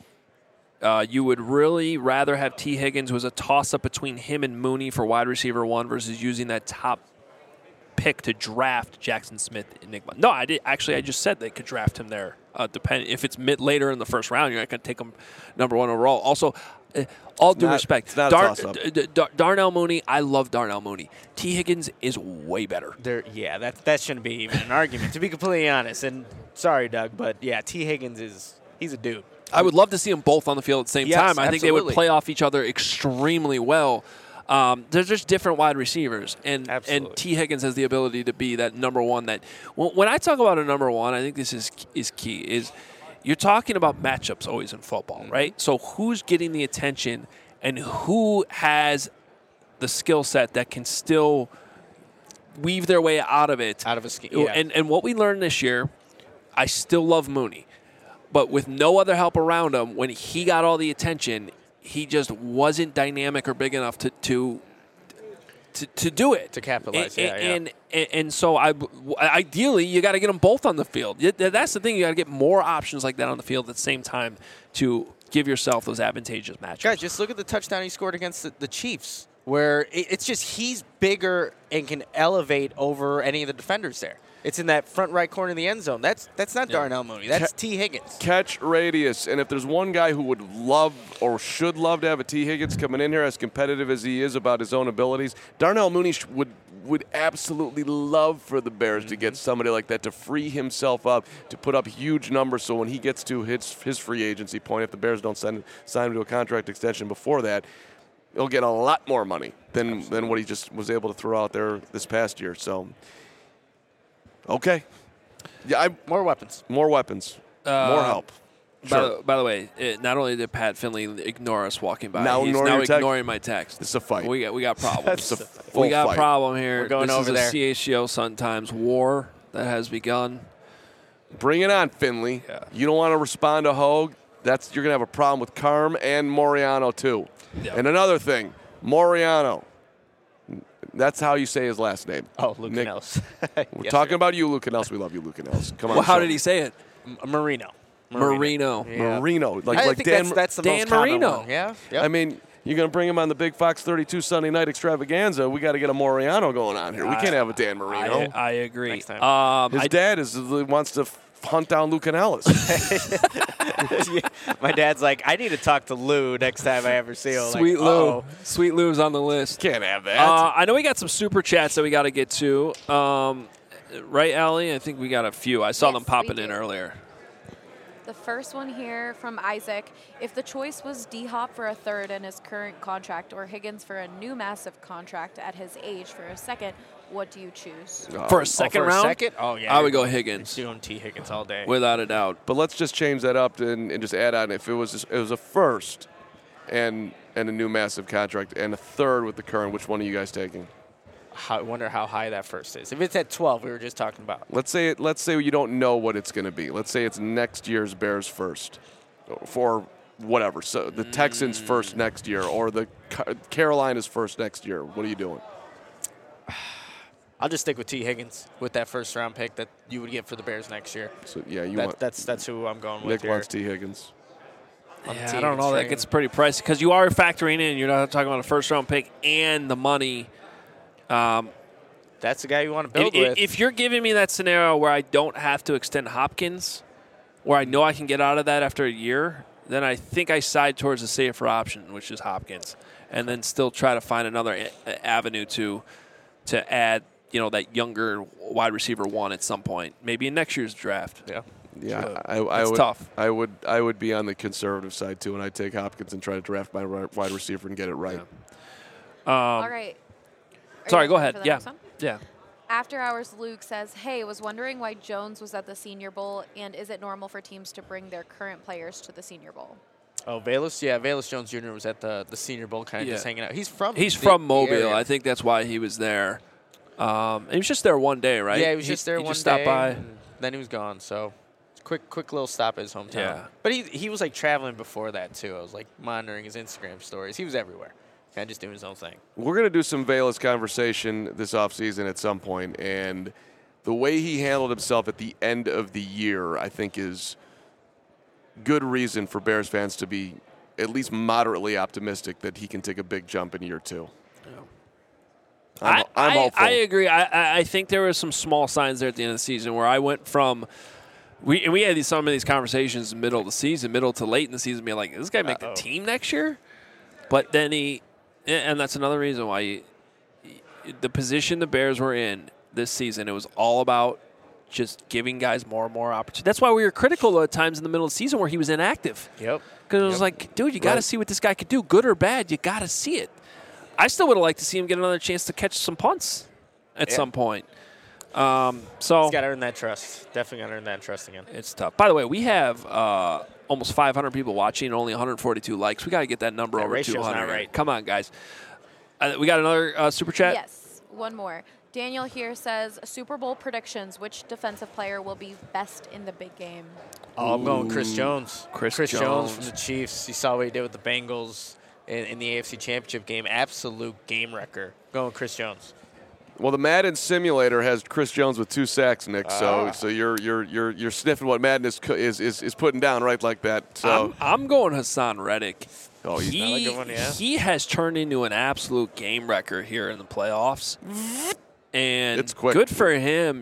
You would really rather have T. Higgins, who was a toss-up between him and Mooney for wide receiver 1 versus using that top pick to draft Jackson Smith Enigma. No, I did. Actually, I just said they could draft him there. Depending if it's later in the first round, you're not going to take him number 1 overall. Also, all due respect, it's not a toss-up. Darnell Mooney, I love Darnell Mooney. T. Higgins is way better. That shouldn't be even an argument, to be completely honest. And sorry, Doug, but yeah, T. Higgins he's a dude. I would love to see them both on the field at the same time. I think they would play off each other extremely well. There's just different wide receivers, and T. Higgins has the ability to be that number 1. That when I talk about a number 1, I think this is key. Is you're talking about matchups always in football, right? So who's getting the attention and who has the skill set that can still weave their way out of it. Out of a scheme. Yeah. And what we learned this year, I still love Mooney. But with no other help around him, when he got all the attention, he just wasn't dynamic or big enough to do it. To capitalize, And so ideally, you got to get them both on the field. That's the thing. You got to get more options like that on the field at the same time to give yourself those advantageous matchups. Guys, just look at the touchdown he scored against the Chiefs, where it's just he's bigger and can elevate over any of the defenders there. It's in that front right corner of the end zone. That's not Darnell Mooney. That's T. Higgins. Catch radius. And if there's one guy who would love or should love to have a T. Higgins coming in here, as competitive as he is about his own abilities, Darnell Mooney would absolutely love for the Bears to get somebody like that to free himself up, to put up huge numbers. So when he gets to his free agency point, if the Bears don't sign him to a contract extension before that, he'll get a lot more money than what he just was able to throw out there this past year. So, okay. Yeah, more weapons. More weapons. More help. Sure. By the way, not only did Pat Finley ignore us walking by, he's now ignoring my text. It's a fight. We got problems. We got a problem here. We're going over there. This is a CHGO Sun Times war that has begun. Bring it on, Finley. Yeah. You don't want to respond to Hogue. You're going to have a problem with Carm and Moriano, too. Yeah. And another thing, Moriano. That's how you say his last name. Oh, Lucanellis. We're talking about you, Lucanellis. We love you, Lucanellis. Come on. Well, how did he say it? Marino. Yeah. Marino. I think that's the Dan most common Marino. one. Yeah. Yep. I mean, you're going to bring him on the Big Fox 32 Sunday night extravaganza. We got to get a Moriano going on here. We can't have a Dan Marino. I agree. Next time. His dad wants to hunt down Lucanellis. My dad's like, I need to talk to Lou next time I ever see him. Sweet like, Lou. Uh-oh. Sweet Lou's on the list. Can't have that. I know we got some super chats that we got to get to. Right, Allie? I think we got a few. I saw them popping in earlier. The first one here from Isaac. If the choice was D-Hop for a third in his current contract or Higgins for a new massive contract at his age for a second, what do you choose? For a second round? Second? Oh, yeah. I would go Higgins. Doing T. Higgins all day. Without a doubt. But let's just change that up and just add on. If it was a first and a new massive contract and a third with the current, which one are you guys taking? I wonder how high that first is. If it's at 12, we were just talking about. Let's say you don't know what it's going to be. Let's say it's next year's Bears first, for whatever. So the Texans first next year, or the Carolinas first next year. What are you doing? I'll just stick with T. Higgins with that first round pick that you would get for the Bears next year. So yeah, that's who I'm going with. Nick here. wants T. Higgins. Yeah, I don't know. That gets pretty pricey because you are factoring in. You're not talking about a first round pick and the money. That's the guy you want to build with. If you're giving me that scenario where I don't have to extend Hopkins, where I know I can get out of that after a year, then I think I side towards the safer option, which is Hopkins, and then still try to find another avenue to add, that younger wide receiver one at some point, maybe in next year's draft. Yeah. Yeah, It's tough. I would be on the conservative side too, and I'd take Hopkins and try to draft my wide receiver and get it right. Yeah. All right. Are Sorry, you go ready ahead. for the Yeah. next one? Yeah. After Hours Luke says, hey, was wondering why Jones was at the Senior Bowl, and is it normal for teams to bring their current players to the Senior Bowl? Oh, Velus? Yeah, Velus Jones Jr. was at the Senior Bowl kind of just hanging out. He's from Mobile. area. I think that's why he was there. He was just there one day, right? Yeah, he was just there he one just stopped day, by. and then he was gone. So quick little stop at his hometown. Yeah. But he was like traveling before that too. I was like monitoring his Instagram stories. He was everywhere, kind of just doing his own thing. We're going to do some Velus conversation this offseason at some point, and the way he handled himself at the end of the year, I think, is good reason for Bears fans to be at least moderately optimistic that he can take a big jump in year 2. I'm hopeful. I agree. I think there were some small signs there at the end of the season where I went from we had some of these conversations middle of the season, middle to late in the season, being like, "Is this guy make the team next year?" But then and that's another reason why the position the Bears were in this season, it was all about just giving guys more and more opportunity. That's why we were critical at times in the middle of the season where he was inactive. Yep. Because it was like, dude, you got to see what this guy could do, good or bad. You got to see it. I still would have liked to see him get another chance to catch some punts at some point. So He's got to earn that trust. Definitely got to earn that trust again. It's tough. By the way, we have almost 500 people watching and only 142 likes. We got to get that number That over ratio's 200. not right. Come on, guys. We got another super chat? Yes, one more. Daniel here says, Super Bowl predictions. Which defensive player will be best in the big game? Oh, I'm going Chris Jones. Chris Jones Jones. from the Chiefs. You saw what he did with the Bengals in the AFC Championship game. Absolute game wrecker. Going Chris Jones. Well, the Madden simulator has Chris Jones with 2 sacks, Nick. So you're sniffing what Madden is putting down right like that. So I'm going Hassan Reddick. Oh, he's not a good one, yeah. He has turned into an absolute game wrecker here in the playoffs. And It's quick. good for him,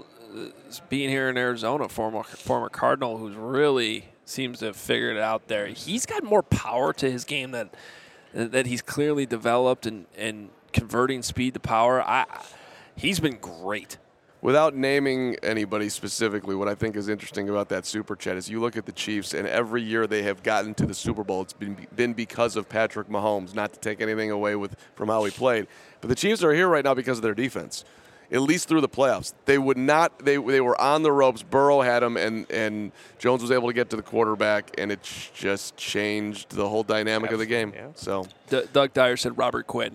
being here in Arizona, former Cardinal who's really seems to have figured it out there. He's got more power to his game that he's clearly developed and converting speed to power. He's been great. Without naming anybody specifically, what I think is interesting about that Super Chat is you look at the Chiefs, and every year they have gotten to the Super Bowl, it's been because of Patrick Mahomes, not to take anything away from how he played. But the Chiefs are here right now because of their defense, at least through the playoffs. They would not. They were on the ropes. Burrow had them, and Jones was able to get to the quarterback, and it just changed the whole dynamic of the game. Yeah. So Doug Dyer said Robert Quinn.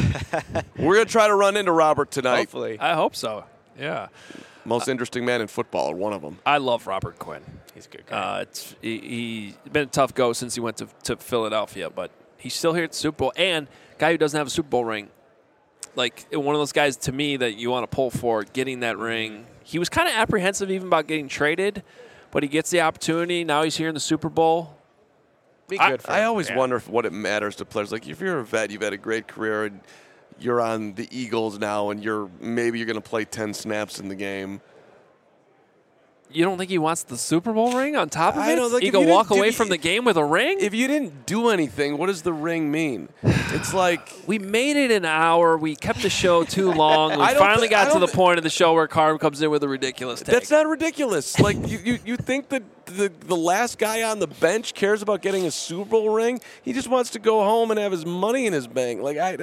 we're going to try to run into Robert tonight. Hopefully. I hope so. Yeah. Most interesting man in football, or one of them. I love Robert Quinn. He's a good guy. He's been a tough go since he went to Philadelphia, but he's still here at the Super Bowl. And guy who doesn't have a Super Bowl ring, like one of those guys to me that you want to pull for getting that ring. He was kind of apprehensive even about getting traded, but he gets the opportunity. Now he's here in the Super Bowl. Be good for him. I always Yeah. wonder what it matters to players. Like if you're a vet, you've had a great career, and you're on the Eagles now, and maybe you're going to play 10 snaps in the game. You don't think he wants the Super Bowl ring on top of I it? don't think He if can you didn't walk do- away from the game with a ring? If you didn't do anything, what does the ring mean? It's like We made it an hour. We kept the show too long. We I don't finally thi- I got to don't the thi- point of the show where Carm comes in with a ridiculous take. that's not ridiculous. Like you think that the last guy on the bench cares about getting a Super Bowl ring? He just wants to go home and have his money in his bank.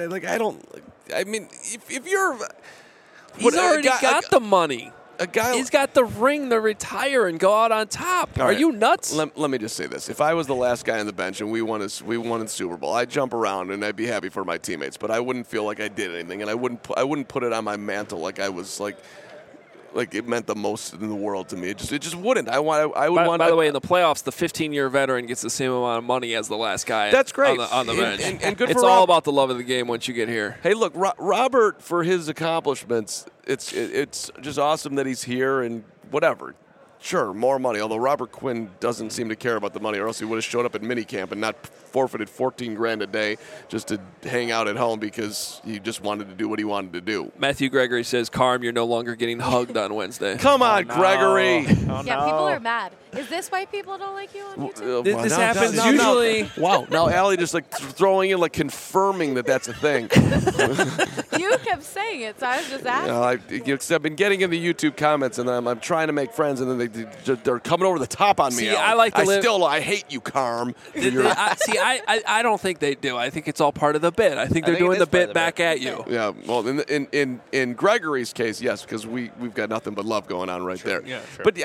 I mean, if you're He's already got the money. a guy. He's got the ring to retire and go out on top. All Are right. you nuts? Let me just say this: if I was the last guy on the bench and we won the Super Bowl, I'd jump around and I'd be happy for my teammates. But I wouldn't feel like I did anything, and I wouldn't put it on my mantle like I was like it meant the most in the world to me. It just wouldn't. I would want. By the way, in the playoffs, the 15-year veteran gets the same amount of money as the last guy. That's great. on the bench. And good it's for all Rob. about the love of the game once you get here. Hey, look, Robert, for his accomplishments, it's just awesome that he's here and whatever. Sure, more money, although Robert Quinn doesn't seem to care about the money, or else he would have showed up at minicamp and not forfeited $14,000 a day just to hang out at home because he just wanted to do what he wanted to do. Matthew Gregory says, Carm, you're no longer getting hugged on Wednesday. Come on, Gregory. Oh, Yeah, no. people are mad. Is this why people don't like you on YouTube? This happens usually. Wow, now Allie just like throwing in, like confirming that that's a thing. You kept saying it, so I was just asking. I've been getting in the YouTube comments, and I'm trying to make friends, and then they're coming over the top on me. See, Allie. I like to live- I hate you, Carm. I don't think they do. I think it's all part of the bit. I think they're think it doing is the part bit of the back bit. at you. Yeah, well, in Gregory's case, yes, because we've got nothing but love going on right there. Yeah, sure. But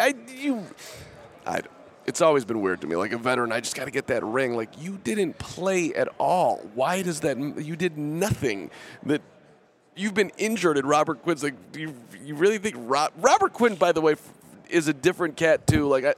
it's always been weird to me. Like a veteran, I just got to get that ring. Like, you didn't play at all. Why does that? You did nothing. That you've been injured, and Robert Quinn's like. You really think Robert Quinn, by the way, is a different cat too? Like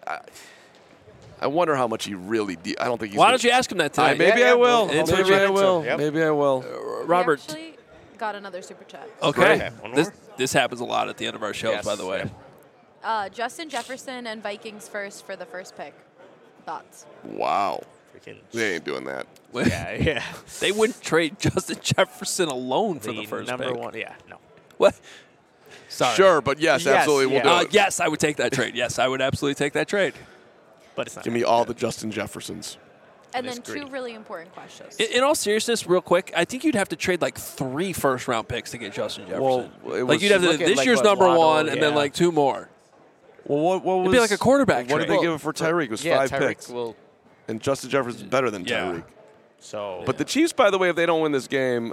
I wonder how much he really. I don't think he's. Why don't you ask him that today? Maybe Yeah, I will. we'll It's Maybe what you- I will. Yep. Maybe I will. Robert. We actually got another super chat. Okay. Okay, one This more? this happens a lot at the end of our shows, Yes, by the way. yeah. Justin Jefferson and Vikings first for the first pick. Thoughts? Wow. Freaking They ain't doing that. yeah. They wouldn't trade Justin Jefferson alone for the The first number pick. one. Yeah, no. What? Sorry. Sure, but yes, Yes, absolutely, yeah. we'll do it. Yes, I would take that trade. Yes, I would absolutely take that trade. But it's not. Give me all the Justin Jeffersons. And is then two greedy. really important questions. In all seriousness, real quick, I think you'd have to trade like 3 first-round picks to get Justin Jefferson. Well, like you'd have to look at, this like, year's what number Waddle, one, and then yeah. like 2 more. Well, what was It'd be like a quarterback What trade. did they give it for Tyreek? It was yeah, 5 Tyreek picks, will. and Justin Jefferson's better than Yeah. Tyreek. So, But the Chiefs, by the way, if they don't win this game,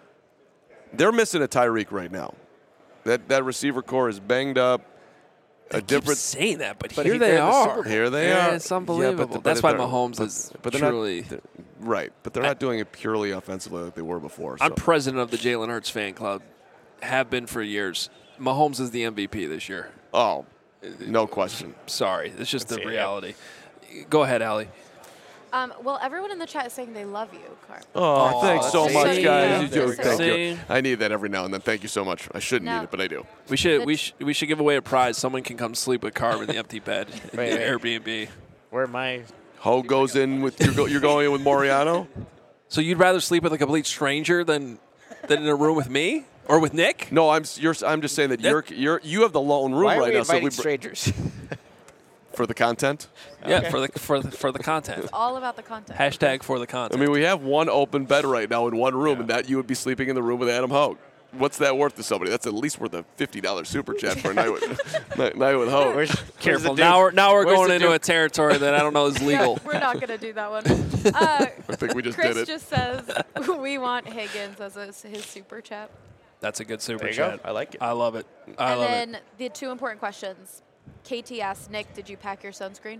they're missing a Tyreek right now. That receiver core is banged up. I keep saying that, but But here he- they they're in the are. Super Bowl. Here they Yeah, are. it's unbelievable. That's why Mahomes is they're truly. Not, right, but they're not doing it purely offensively like they were before. So. I'm president of the Jalen Hurts fan club. Have been for years. Mahomes is the MVP this year. Oh, no question. Sorry, it's just the see it, yeah. reality. Go ahead, Allie. Well, everyone in the chat is saying they love you, Carm. Oh, thanks so that's much, sweet. guys. You There do. we go. Thank See? you. I need that every now and then. Thank you so much. I shouldn't No. need it, but I do. We should give away a prize. Someone can come sleep with Carm in the empty bed in Wait, the wait. Airbnb. where am I? Ho goes in with you're going in with Moriano. So you'd rather sleep with a complete stranger than in a room with me or with Nick? No, I'm just saying that you have the lone room Why are right we now. So inviting strangers? for the content. Yeah, for the content. All about the content. Hashtag for the I content. mean, we have one open bed right now in one room, and that you would be sleeping in the room with Adam Hogue. What's that worth to somebody? That's at least worth a $50 super chat for a night with night with Hogue. Where's, Careful. where's the Now Duke? we're Where's going the into Duke? a territory that I don't know is Yeah, legal. we're not going to do that one. I think we just Chris did it. just says we want Higgins as his super chat. That's a good super There you chat. go. I like it. I love it. I And love it. then the 2 important questions. KT asked Nick, "Did you pack your sunscreen?"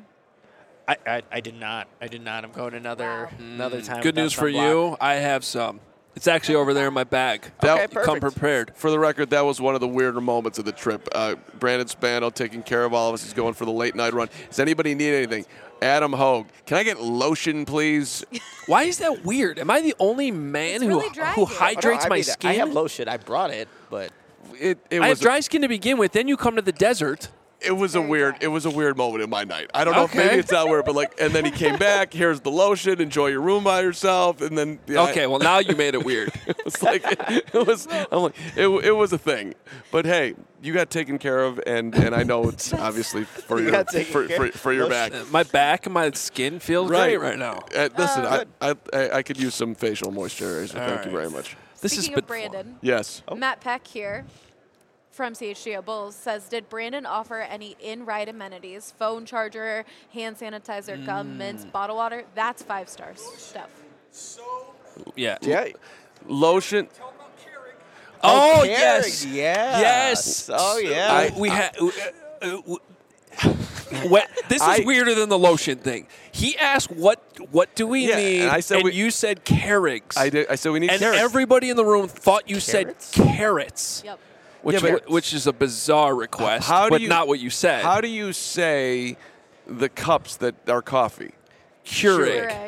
I did not. I did not. I'm going another time. Good without news for sunblock. you. I have some. It's actually over there in my bag. That- Come prepared. For the record, that was one of the weirder moments of the trip. Brandon Spano taking care of all of us. He's going for the late night run. Does anybody need anything? Adam Hogue, can I get lotion, please? Why is that weird? Am I the only man It's really dry who here. hydrates I my mean, skin? I have lotion. I brought it, but It I have was dry skin to begin with. Then you come to the desert. It was a Very weird. dry. It was a weird moment in my night. I don't know if Okay. maybe it's not weird, but like, and then he came back. Here's the lotion. Enjoy your room by yourself. And then Okay, well now you made it weird. it was like it was. I'm like it was a thing. But hey, you got taken care of, and I know it's obviously for your got taken care of. for your back. My back and my skin feels great right now. Listen, I could use some facial moisturizer. Thank you very much. This Speaking has of been fun. Brandon, Yes. Matt Peck here from CHGO Bulls says, "Did Brandon offer any in-ride amenities? Phone charger, hand sanitizer, gum, mints, bottle water? That's 5 stars stuff." Yeah. yeah. Lotion. Oh, Keurig, yes. Yeah. Yes. Oh yeah. We had. This is weirder than the lotion thing. He asked, "What do we Yeah, need?" and I said you said Keurigs. I did. I said we need And carrots. everybody in the room thought you Carrots? said carrots, Yep. which is a bizarre request, How do but you- not what you said. How do you say the cups that are coffee? Keurig? Keurig.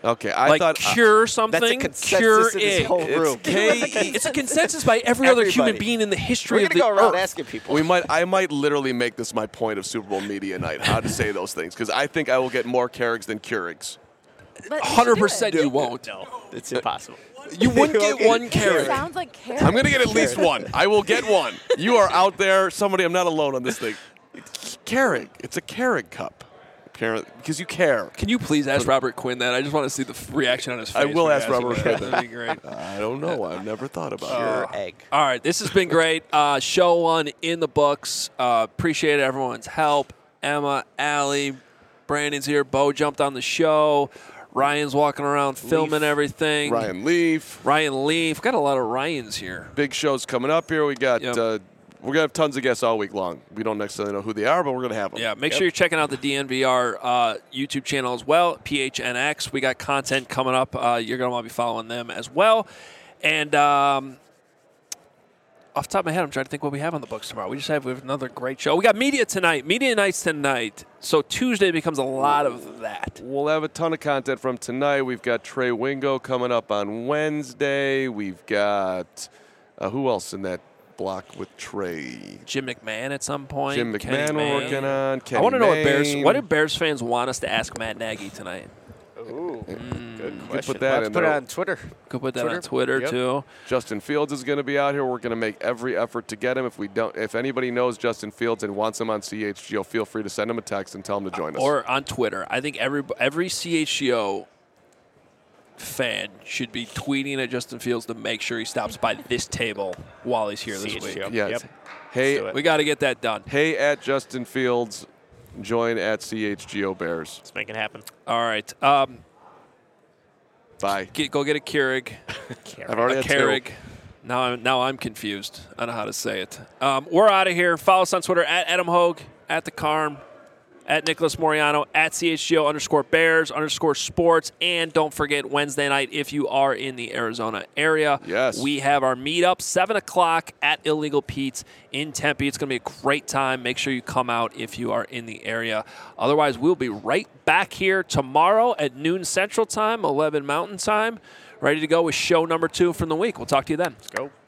Okay, I like thought cure something. That's a consensus Cure in this it. whole room. It's a consensus by every other human Everybody. being in the history We're of going to the go around earth. asking people. I might literally make this my point of Super Bowl media night, how to say those things, because I think I will get more Kerrigs than Keurigs. But you should do 100% it. you won't. No, it's impossible. You wouldn't get one It Keurig. sounds like carrot. I'm going to get at least one. I will get one. You are out there. Somebody, I'm not alone on this thing. Keurig. It's a Keurig cup. Apparently, because you care. Can you please ask Robert Quinn that? I just want to see the reaction on his face. I will when you ask Robert him that. Quinn. That'd be great. I don't know. I've never thought about Pure it. egg. All right, this has been great. Show 1 in the books. Appreciate everyone's help. Emma, Allie, Brandon's here. Bo jumped on the show. Ryan's walking around filming everything. Ryan Leaf. Got a lot of Ryans here. Big shows coming up here. We got. Yep. We're going to have tons of guests all week long. We don't necessarily know who they are, but we're going to have them. Yeah, make sure you're checking out the DNVR YouTube channel as well, PHNX. We got content coming up. You're going to want to be following them as well. And off the top of my head, I'm trying to think what we have on the books tomorrow. We have another great show. We got media tonight, media nights tonight. So Tuesday becomes a lot of that. We'll have a ton of content from tonight. We've got Trey Wingo coming up on Wednesday. We've got who else in that block with Trey? Jim McMahon at some point. Jim Kenny McMahon we're Mayne. working on. Kenny I want to know Mayne. what do Bears fans want us to ask Matt Nagy tonight? Ooh, good Put question. that Let's in put it there. on Twitter. Could put that on Twitter. Twitter Yep. too. Justin Fields is going to be out here. We're going to make every effort to get him. If anybody knows Justin Fields and wants him on CHGO, feel free to send him a text and tell him to join us. Or on Twitter. I think every CHGO fan should be tweeting at Justin Fields to make sure he stops by this table while he's here this week. CHGO. yes. Yep. Hey, do it. We got to get that done. hey at Justin Fields, join at CHGO Bears. Let's make it happen. All right. Bye. Go get a Keurig. I've already A had two. Keurig. Now I'm confused. I know how to say it. We're out of here. Follow us on Twitter at Adam Hogue, at the Carm, at Nicholas Moriano, at CHGO_Bears_sports. And don't forget Wednesday night, if you are in the Arizona area, Yes. we have our meetup, 7 o'clock at Illegal Pete's in Tempe. It's going to be a great time. Make sure you come out if you are in the area. Otherwise, we'll be right back here tomorrow at noon Central Time, 11 Mountain Time, ready to go with show number 2 from the week. We'll talk to you then. Let's go.